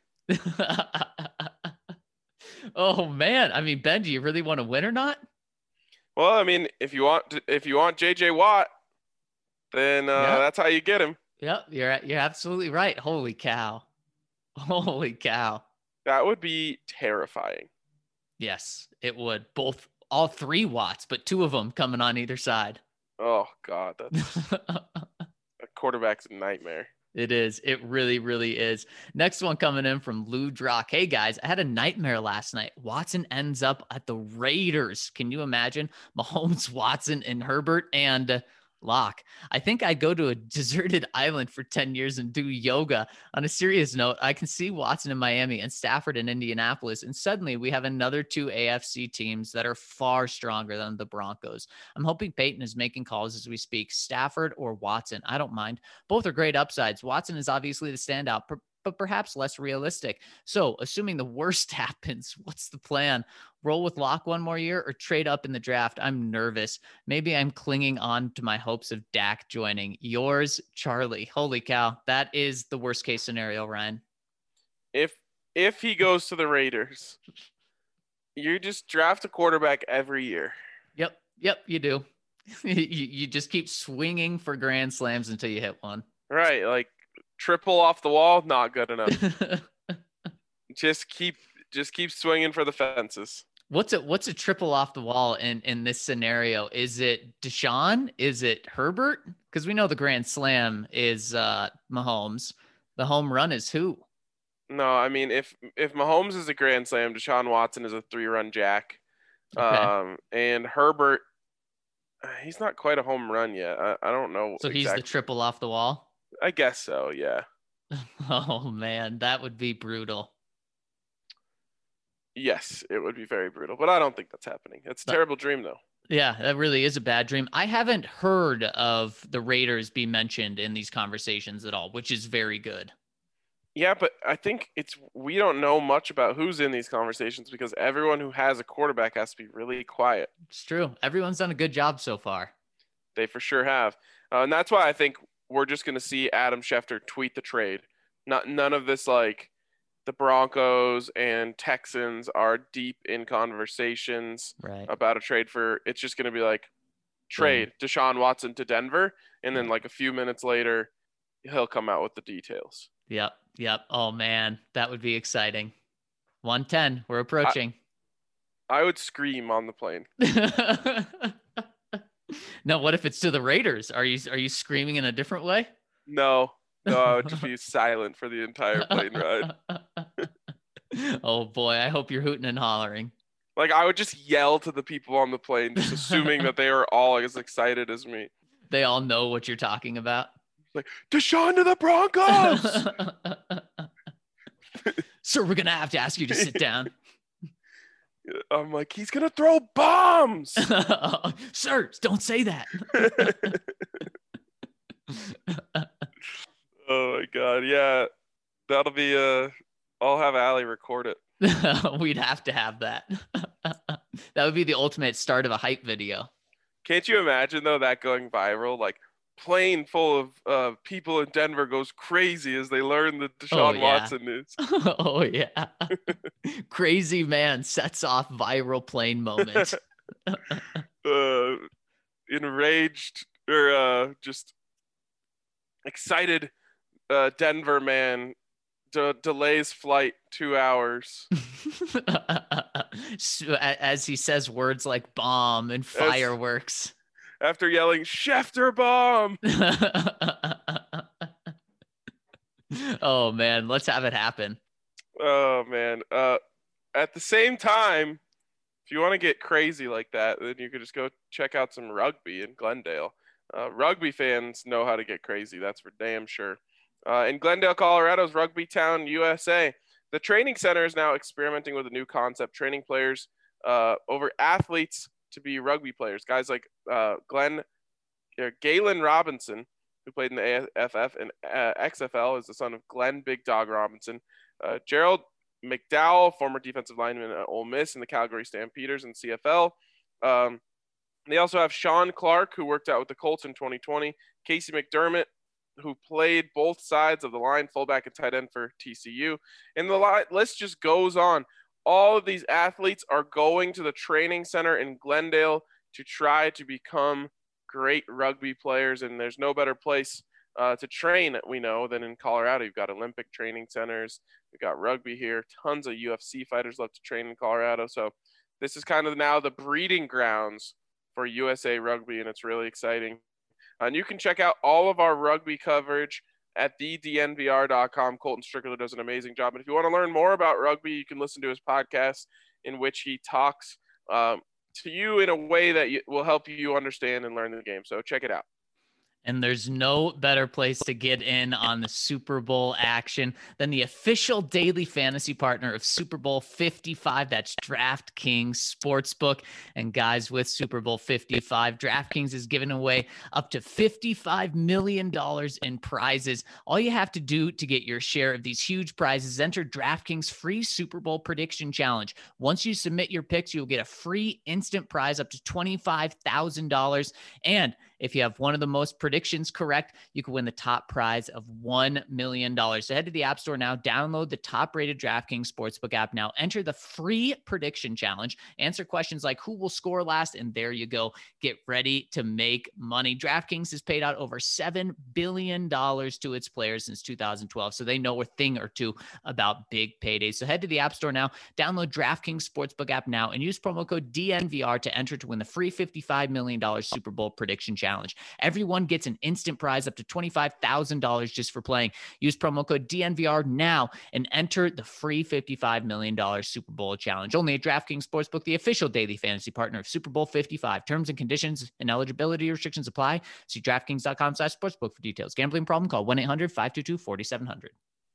Oh man, I mean, Ben, do you really want to win or not? Well, I mean, if you want J.J. Watt, then that's how you get him. Yep, you're absolutely right. Holy cow. That would be terrifying. Yes, it would. All 3 Watts, but 2 of them coming on either side. Oh God, that's a quarterback's nightmare. It is. It really, really is. Next one coming in from Lou Drock. Hey guys, I had a nightmare last night. Watson ends up at the Raiders. Can you imagine? Mahomes, Watson, and Herbert and Locke. I think I'd go to a deserted island for 10 years and do yoga. On a serious note, I can see Watson in Miami and Stafford in Indianapolis. And suddenly we have another 2 AFC teams that are far stronger than the Broncos. I'm hoping Peyton is making calls as we speak. Stafford or Watson. I don't mind. Both are great upsides. Watson is obviously the standout, but perhaps less realistic. So assuming the worst happens, what's the plan? Roll with Locke one more year or trade up in the draft? I'm nervous. Maybe I'm clinging on to my hopes of Dak joining. Yours, Charlie. Holy cow. That is the worst case scenario, Ryan. If he goes to the Raiders, you just draft a quarterback every year. Yep, you do. you just keep swinging for grand slams until you hit one. Right, like triple off the wall, not good enough. Just keep swinging for the fences. What's a triple off the wall in this scenario? Is it Deshaun? Is it Herbert? Because we know the grand slam is Mahomes. The home run is who? No, I mean if Mahomes is a grand slam, Deshaun Watson is a 3-run jack. Okay. And Herbert, he's not quite a home run yet. I don't know. So he's the triple off the wall? I guess so, yeah. Oh man, that would be brutal. Yes, it would be very brutal, but I don't think that's happening. It's a terrible dream, though. Yeah, that really is a bad dream. I haven't heard of the Raiders be mentioned in these conversations at all, which is very good. Yeah, but I think we don't know much about who's in these conversations because everyone who has a quarterback has to be really quiet. It's true. Everyone's done a good job so far. They for sure have. And that's why I think we're just going to see Adam Schefter tweet the trade. None of this like the Broncos and Texans are deep in conversations about a trade for. It's just going to be like trade Deshaun Watson to Denver, and then like a few minutes later, he'll come out with the details. Yep. Oh man, that would be exciting. 110. We're approaching. I would scream on the plane. No, what if it's to the Raiders? Are you screaming in a different way? No, I would just be silent for the entire plane ride. Oh boy, I hope you're hooting and hollering. Like I would just yell to the people on the plane, just assuming that they were all as excited as me. They all know what you're talking about. Like, Deshaun to the Broncos! Sir, we're going to have to ask you to sit down. I'm like, he's going to throw bombs! Sir, don't say that. Oh, my God. Yeah, that'll be I'll have Allie record it. We'd have to have that. That would be the ultimate start of a hype video. Can't you imagine though that going viral? Like plane full of people in Denver goes crazy as they learn the Deshaun Watson news. Oh yeah. Crazy man sets off viral plane moment. Enraged or just excited Denver man delays flight 2 hours. So, as he says words like bomb and fireworks. After yelling Schefter bomb. Oh man, let's have it happen. Oh man. At the same time, if you want to get crazy like that, then you could just go check out some rugby in Glendale. Rugby fans know how to get crazy. That's for damn sure. In Glendale, Colorado's Rugby Town, USA, the training center is now experimenting with a new concept, training players over athletes to be rugby players. Guys like Galen Robinson, who played in the AFF and XFL, is the son of Glenn Big Dog Robinson. Gerald McDowell, former defensive lineman at Ole Miss and the Calgary Stampeders in CFL. They also have Sean Clark, who worked out with the Colts in 2020. Casey McDermott, who played both sides of the line, fullback and tight end for TCU. And the list just goes on. All of these athletes are going to the training center in Glendale to try to become great rugby players. And there's no better place to train, we know, than in Colorado. You've got Olympic training centers. We've got rugby here. Tons of UFC fighters love to train in Colorado. So this is kind of now the breeding grounds for USA Rugby, and it's really exciting. And you can check out all of our rugby coverage at thednvr.com. Colton Strickler does an amazing job. And if you want to learn more about rugby, you can listen to his podcast in which he talks to you in a way that will help you understand and learn the game. So check it out. And there's no better place to get in on the Super Bowl action than the official daily fantasy partner of Super Bowl 55. That's DraftKings Sportsbook. And guys, with Super Bowl 55, DraftKings is giving away up to $55 million in prizes. All you have to do to get your share of these huge prizes is enter DraftKings free Super Bowl prediction challenge. Once you submit your picks, you'll get a free instant prize up to $25,000. And if you have one of the most predictions correct, you can win the top prize of $1 million. So head to the App Store now, download the top-rated DraftKings Sportsbook app now, enter the free prediction challenge, answer questions like who will score last, and there you go. Get ready to make money. DraftKings has paid out over $7 billion to its players since 2012, so they know a thing or two about big paydays. So head to the App Store now, download DraftKings Sportsbook app now, and use promo code DNVR to enter to win the free $55 million Super Bowl prediction challenge. Everyone gets an instant prize up to $25,000 just for playing. Use promo code DNVR now and enter the free $55 million Super Bowl challenge. Only at DraftKings Sportsbook, the official daily fantasy partner of Super Bowl 55. Terms and conditions and eligibility restrictions apply. See DraftKings.com/sportsbook for details. Gambling problem? Call 1-800-522-4700.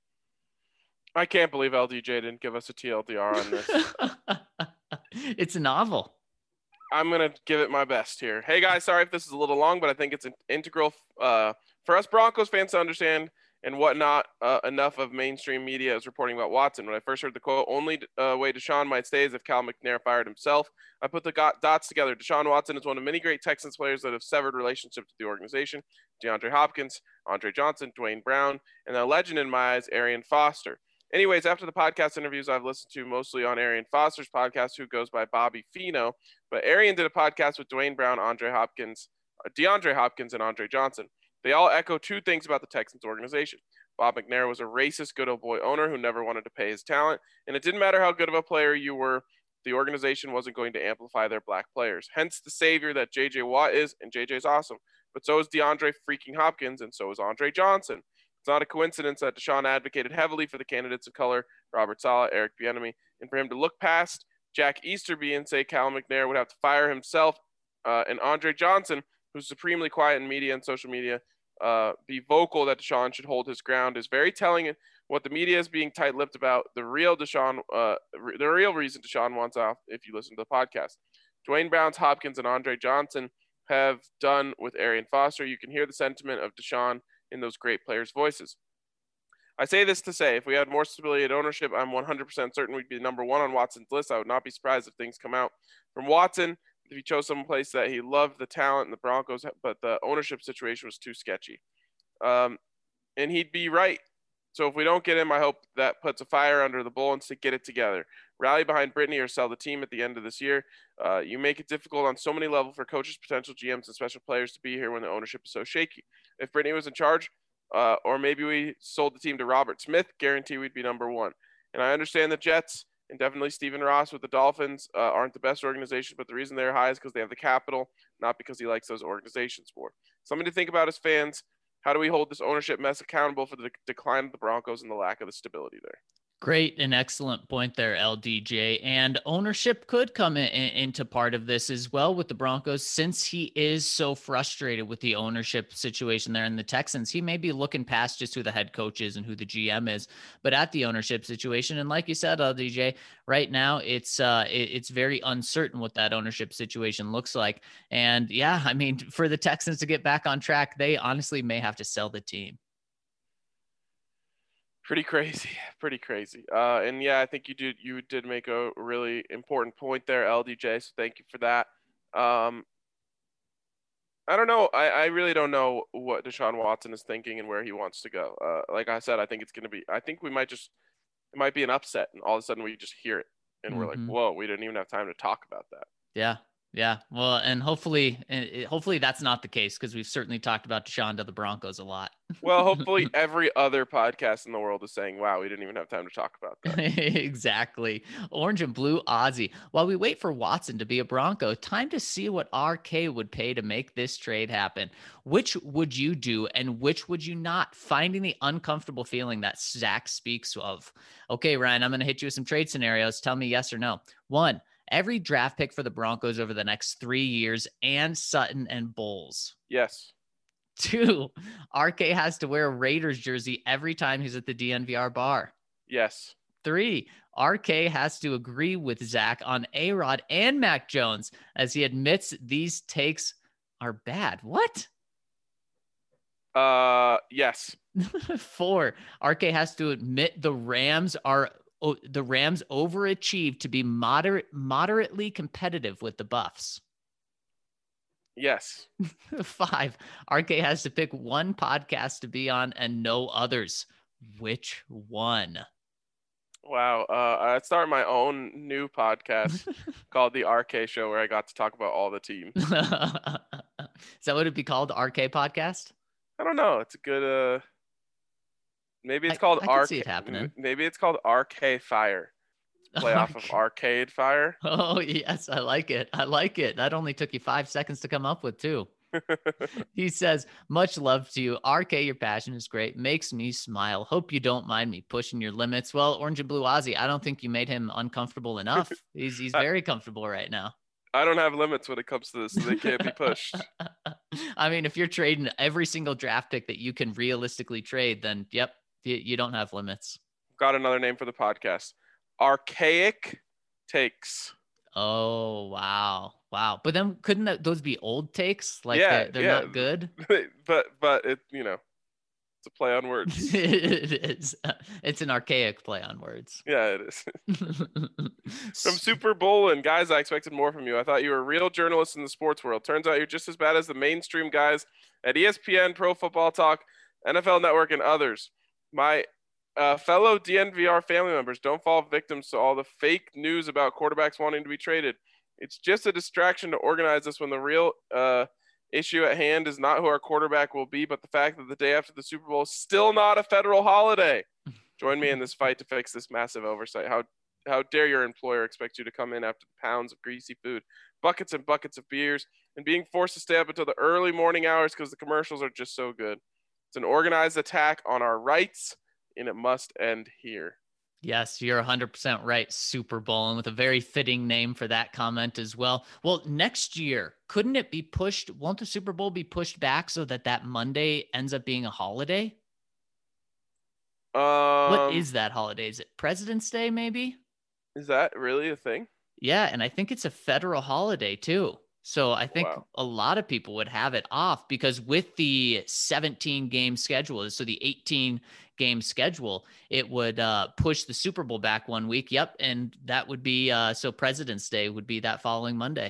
I can't believe LDJ didn't give us a TLDR on this. It's a novel. I'm going to give it my best here. Hey, guys, sorry if this is a little long, but I think it's integral for us Broncos fans to understand and whatnot. Enough of mainstream media is reporting about Watson. When I first heard the quote, only way Deshaun might stay is if Cal McNair fired himself. I put the dots together. Deshaun Watson is one of many great Texans players that have severed relationships with the organization. DeAndre Hopkins, Andre Johnson, Dwayne Brown, and a legend in my eyes, Arian Foster. Anyways, after the podcast interviews I've listened to mostly on Arian Foster's podcast, who goes by Bobby Fino, but Arian did a podcast with Dwayne Brown, DeAndre Hopkins, and Andre Johnson. They all echo two things about the Texans organization. Bob McNair was a racist good old boy owner who never wanted to pay his talent, and it didn't matter how good of a player you were, the organization wasn't going to amplify their black players. Hence the savior that J.J. Watt is, and J.J.'s awesome. But so is DeAndre freaking Hopkins, and so is Andre Johnson. It's not a coincidence that Deshaun advocated heavily for the candidates of color, Robert Saleh, Eric Bieniemy, and for him to look past Jack Easterby and say Cal McNair would have to fire himself, and Andre Johnson, who's supremely quiet in media and social media, be vocal that Deshaun should hold his ground is very telling. What the media is being tight-lipped about, the real reason Deshaun wants off, if you listen to the podcast. Dwayne Brown, Hopkins, and Andre Johnson have done with Arian Foster. You can hear the sentiment of Deshaun in those great players' voices. I say this to say, if we had more stability at ownership, I'm 100% certain we'd be number one on Watson's list. I would not be surprised if things come out from Watson if he chose some place that he loved the talent in the Broncos, but the ownership situation was too sketchy. And he'd be right. So if we don't get him, I hope that puts a fire under the Bullens to get it together. Rally behind Brittany or sell the team at the end of this year. You make it difficult on so many levels for coaches, potential GMs, and special players to be here when the ownership is so shaky. If Brittany was in charge, or maybe we sold the team to Robert Smith, guarantee we'd be number one. And I understand the Jets and definitely Stephen Ross with the Dolphins aren't the best organization, but the reason they're high is because they have the capital, not because he likes those organizations more. Something to think about as fans. How do we hold this ownership mess accountable for the decline of the Broncos and the lack of the stability there? Great and excellent point there, LDJ. And ownership could come into part of this as well with the Broncos, since he is so frustrated with the ownership situation there in the Texans. He may be looking past just who the head coach is and who the GM is, but at the ownership situation. And like you said, LDJ, right now it's very uncertain what that ownership situation looks like. And yeah, I mean, for the Texans to get back on track, they honestly may have to sell the team. Pretty crazy. And yeah, I think you did make a really important point there, LDJ. So thank you for that. I don't know. I really don't know what Deshaun Watson is thinking and where he wants to go. Like I said, I think it might be an upset, and all of a sudden we just hear it and we're like, whoa, we didn't even have time to talk about that. Yeah. Yeah. Well, and hopefully that's not the case, because we've certainly talked about Deshaun to the Broncos a lot. Well, hopefully every other podcast in the world is saying, wow, we didn't even have time to talk about that. Exactly. Orange and Blue Ozzy. While we wait for Watson to be a Bronco, time to see what RK would pay to make this trade happen. Which would you do and which would you not? Finding the uncomfortable feeling that Zach speaks of. Okay, Ryan, I'm going to hit you with some trade scenarios. Tell me yes or no. 1, every draft pick for the Broncos over the next 3 years and Sutton and Bowles. Yes. 2, RK has to wear a Raiders jersey every time he's at the DNVR bar. Yes. 3, RK has to agree with Zach on A-Rod and Mac Jones as he admits these takes are bad. What? Yes. 4, RK has to admit the Rams overachieved to be moderately competitive with the Buffs. Yes. 5, RK has to pick one podcast to be on and no others. Which one? Wow. I started my own new podcast called The RK Show, where I got to talk about all the teams. Is that what it'd be called? The RK Podcast? I don't know. It's a good, maybe it's called I see it happening. Maybe it's called RK Fire. Play off of Arcade Fire. Oh, yes. I like it. That only took you 5 seconds to come up with, too. He says, much love to you. RK, your passion is great. Makes me smile. Hope you don't mind me pushing your limits. Well, Orange and Blue Ozzy, I don't think you made him uncomfortable enough. He's very comfortable right now. I don't have limits when it comes to this. So they can't be pushed. I mean, if you're trading every single draft pick that you can realistically trade, then yep, you don't have limits. Got another name for the podcast. Archaic Takes. Oh, wow. But then couldn't those be old takes? Like they're not good? but it, it's a play on words. It is. It's an archaic play on words. Yeah, it is. From Super Bowl and guys, I expected more from you. I thought you were a real journalist in the sports world. Turns out you're just as bad as the mainstream guys at ESPN, Pro Football Talk, NFL Network, and others. My fellow DNVR family members, don't fall victims to all the fake news about quarterbacks wanting to be traded. It's just a distraction to organize us when the real issue at hand is not who our quarterback will be, but the fact that the day after the Super Bowl is still not a federal holiday. Join me in this fight to fix this massive oversight. How dare your employer expect you to come in after the pounds of greasy food, buckets and buckets of beers, and being forced to stay up until the early morning hours because the commercials are just so good. It's an organized attack on our rights, and it must end here. Yes, you're 100% right, Super Bowl, and with a very fitting name for that comment as well. Well, next year, couldn't it be pushed? Won't the Super Bowl be pushed back so that Monday ends up being a holiday? What is that holiday? Is it President's Day, maybe? Is that really a thing? Yeah, and I think it's a federal holiday, too. So I think Wow. a lot of people would have it off because with the 17 game schedule, so the 18 game schedule, it would push the Super Bowl back 1 week. Yep. And that would be so President's Day would be that following Monday.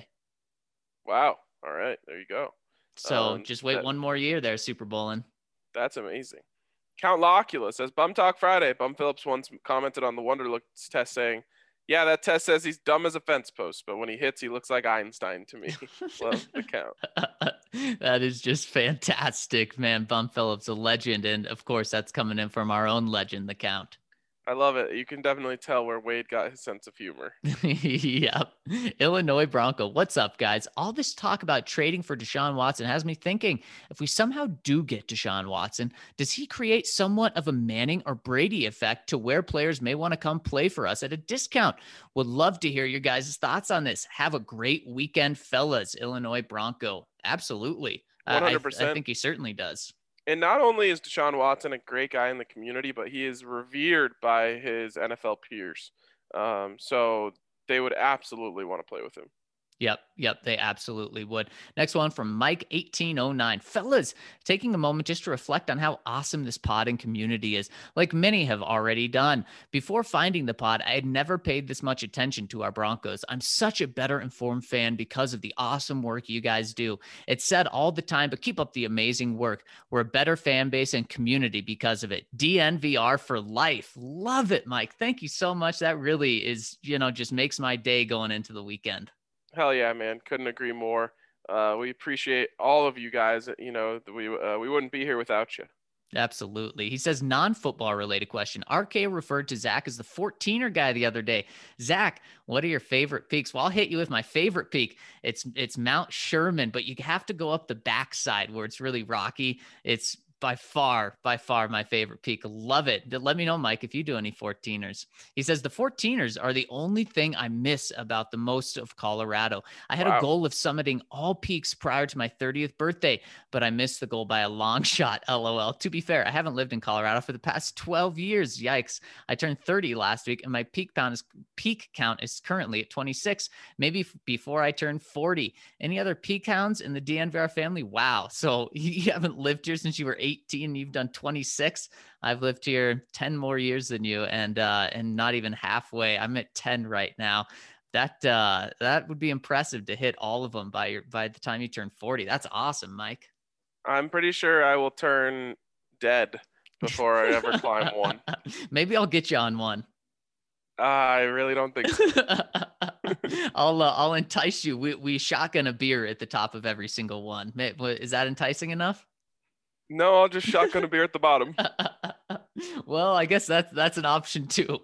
Wow. All right. There you go. So just wait one more year there, Super Bowling. That's amazing. Count Locula says, Bum Talk Friday. Bum Phillips once commented on the Wonderlooks test saying, yeah, that test says he's dumb as a fence post, but when he hits, he looks like Einstein to me. Love the count. That is just fantastic, man. Bum Phillips, a legend. And of course, that's coming in from our own legend, the Count. I love it. You can definitely tell where Wade got his sense of humor. Yep. Illinois Bronco. What's up, guys? All this talk about trading for Deshaun Watson has me thinking, if we somehow do get Deshaun Watson, does he create somewhat of a Manning or Brady effect to where players may want to come play for us at a discount? Would love to hear your guys' thoughts on this. Have a great weekend, fellas. Illinois Bronco. Absolutely. 100%. I think he certainly does. And not only is Deshaun Watson a great guy in the community, but he is revered by his NFL peers. So they would absolutely want to play with him. Yep, they absolutely would. Next one from Mike1809. Fellas, taking a moment just to reflect on how awesome this pod and community is, like many have already done. Before finding the pod, I had never paid this much attention to our Broncos. I'm such a better informed fan because of the awesome work you guys do. It's said all the time, but keep up the amazing work. We're a better fan base and community because of it. DNVR for life. Love it, Mike. Thank you so much. That really is, just makes my day going into the weekend. Hell yeah, man. Couldn't agree more. We appreciate all of you guys. We wouldn't be here without you. Absolutely. He says non-football related question. RK referred to Zach as the 14er guy the other day. Zach, what are your favorite peaks? Well, I'll hit you with my favorite peak. It's Mount Sherman, but you have to go up the backside where it's really rocky. It's by far my favorite peak. Love it. Let me know, Mike, if you do any 14ers. He says the 14ers are the only thing I miss about the most of Colorado. I had a goal of summiting all peaks prior to my 30th birthday, but I missed the goal by a long shot. LOL. To be fair, I haven't lived in Colorado for the past 12 years. Yikes. I turned 30 last week and my peak count is currently at 26, maybe before I turn 40. Any other peak counts in the DNVR family? Wow. So you haven't lived here since you were 18, you've done 26. I've lived here 10 more years than you, and not even halfway. I'm at 10 right now. That would be impressive to hit all of them by the time you turn 40. That's awesome, Mike. I'm pretty sure I will turn dead before I ever climb one. Maybe I'll get you on one. I really don't think so. I'll entice you. We shotgun a beer at the top of every single one. Is that enticing enough? No, I'll just shotgun a beer at the bottom. Well, I guess that's an option too.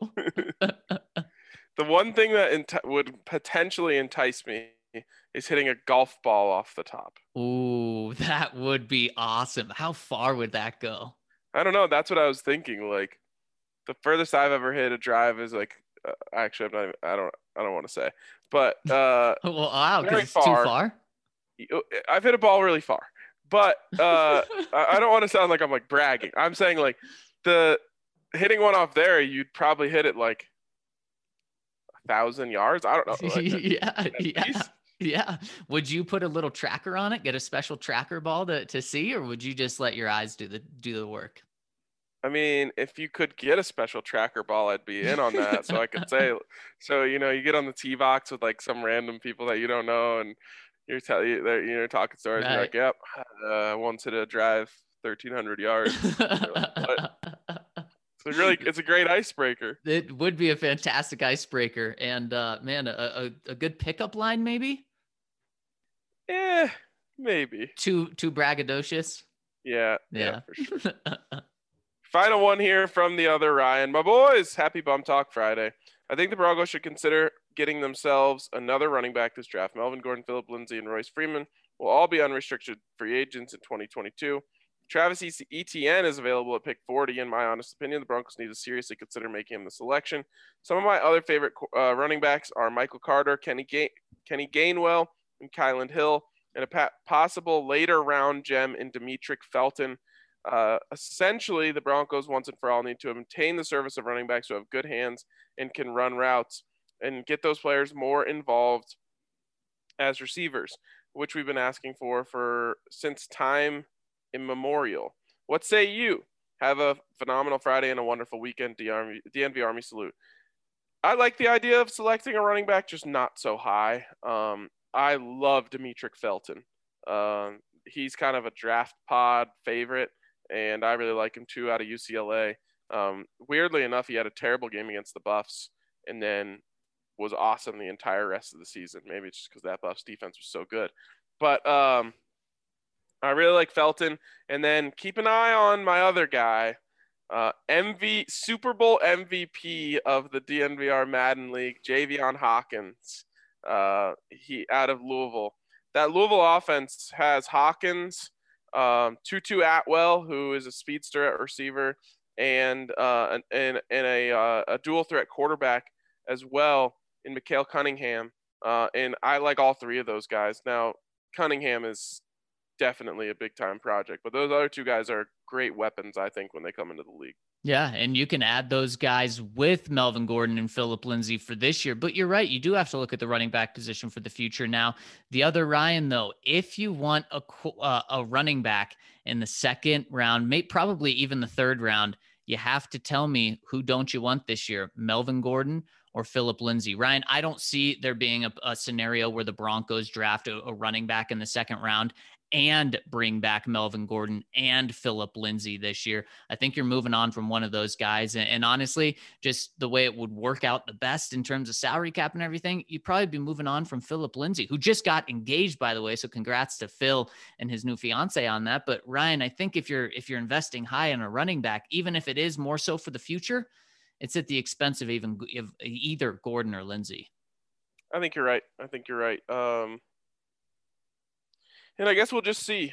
The one thing that would potentially entice me is hitting a golf ball off the top. Ooh, that would be awesome. How far would that go? I don't know. That's what I was thinking. Like, the furthest I've ever hit a drive is like, actually, I don't want to say, but well, wow, because it's too far. I've hit a ball really far. But I don't want to sound like I'm like bragging. I'm saying like the hitting one off there, you'd probably hit it like 1,000 yards. I don't know. Like, yeah. Would you put a little tracker on it? Get a special tracker ball to see, or would you just let your eyes do the work? I mean, if you could get a special tracker ball, I'd be in on that. So I could say, so you get on the tee box with like some random people that you don't know, and you're talking stories. Right. You're like, yep, once hit a drive 1,300 yards. It's a great icebreaker. It would be a fantastic icebreaker, and man, a good pickup line maybe. Yeah, maybe. Too braggadocious. Yeah, for sure. Final one here from the other Ryan. My boys, happy Bum Talk Friday. I think the Broncos should consider getting themselves another running back this draft. Melvin Gordon, Phillip Lindsay, and Royce Freeman will all be unrestricted free agents in 2022. Travis Etienne is available at pick 40. In my honest opinion, the Broncos need to seriously consider making him the selection. Some of my other favorite running backs are Michael Carter, Kenny Gainwell, and Kylan Hill, and a possible later round gem in Demetric Felton. Essentially, the Broncos once and for all need to obtain the service of running backs who have good hands and can run routes and get those players more involved as receivers. which we've been asking for since time immemorial. What say you? Have a phenomenal Friday and a wonderful weekend, DNV Army salute. I like the idea of selecting a running back, just not so high. I love Demetric Felton. He's kind of a draft pod favorite, and I really like him too out of UCLA. Weirdly enough, he had a terrible game against the Buffs and then was awesome the entire rest of the season. Maybe it's just because that Buffs defense was so good. But I really like Felton. And then keep an eye on my other guy, Super Bowl MVP of the DNVR Madden League, Javion Hawkins. He out of Louisville. That Louisville offense has Hawkins, Tutu Atwell, who is a speedster at receiver, and a dual threat quarterback as well in Mikael Cunningham. And I like all three of those guys. Now, Cunningham is definitely a big time project, but those other two guys are great weapons, I think, when they come into the league. Yeah, and you can add those guys with Melvin Gordon and Phillip Lindsay for this year. But you're right, you do have to look at the running back position for the future. Now, the other Ryan, though, if you want a running back in the second round, probably even the third round, you have to tell me, who don't you want this year, Melvin Gordon or Phillip Lindsay? Ryan, I don't see there being a scenario where the Broncos draft a running back in the second round and bring back Melvin Gordon and Phillip Lindsay this year. I think you're moving on from one of those guys. And honestly, just the way it would work out the best in terms of salary cap and everything, you'd probably be moving on from Phillip Lindsay, who just got engaged, by the way. So congrats to Phil and his new fiance on that. But Ryan, I think if you're investing high in a running back, even if it is more so for the future, it's at the expense of either Gordon or Lindsay. I think you're right. And I guess we'll just see.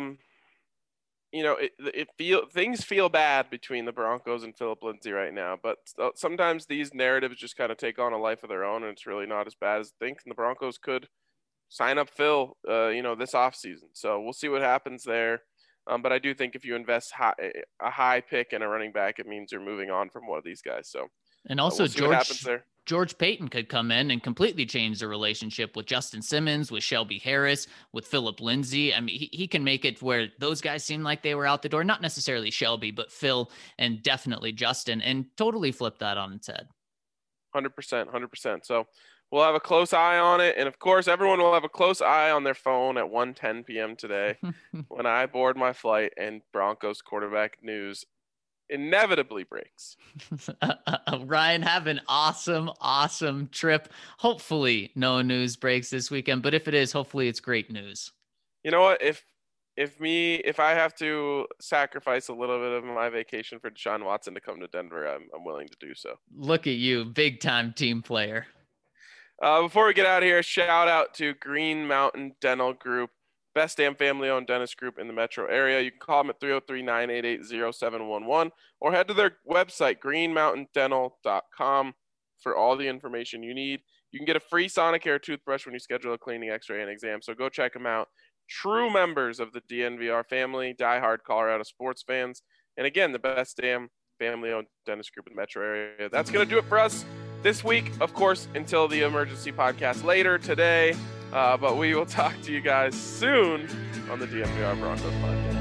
Things feel bad between the Broncos and Phillip Lindsay right now, but sometimes these narratives just kind of take on a life of their own, and it's really not as bad as they think. And the Broncos could sign up Phil, this offseason. So we'll see what happens there. But I do think if you invest a high pick in a running back, it means you're moving on from one of these guys. So, and also we'll see what happens there. George Payton could come in and completely change the relationship with Justin Simmons, with Shelby Harris, with Phillip Lindsay. I mean, he can make it where those guys seem like they were out the door, not necessarily Shelby, but Phil and definitely Justin, and totally flip that on its head. 100%. So we'll have a close eye on it. And of course, everyone will have a close eye on their phone at 1:10 p.m. today when I board my flight and Broncos quarterback news inevitably breaks. Ryan, have an awesome trip. Hopefully no news breaks this weekend, but if it is, hopefully it's great news. You know what? If I have to sacrifice a little bit of my vacation for Deshaun Watson to come to Denver, I'm willing to do so. Look at you, big time team player. Before we get out of here, shout out to Green Mountain Dental Group, best damn family-owned dentist group in the metro area. You can call them at 303-988-0711 or head to their website, greenmountaindental.com, for all the information you need. You can get a free Sonicare toothbrush when you schedule a cleaning, x-ray, and exam, so go check them out. True members of the DNVR family, diehard Colorado sports fans, and again, the best damn family-owned dentist group in the metro area. That's going to do it for us this week, of course, until the emergency podcast later today. But we will talk to you guys soon on the DNVR Broncos podcast.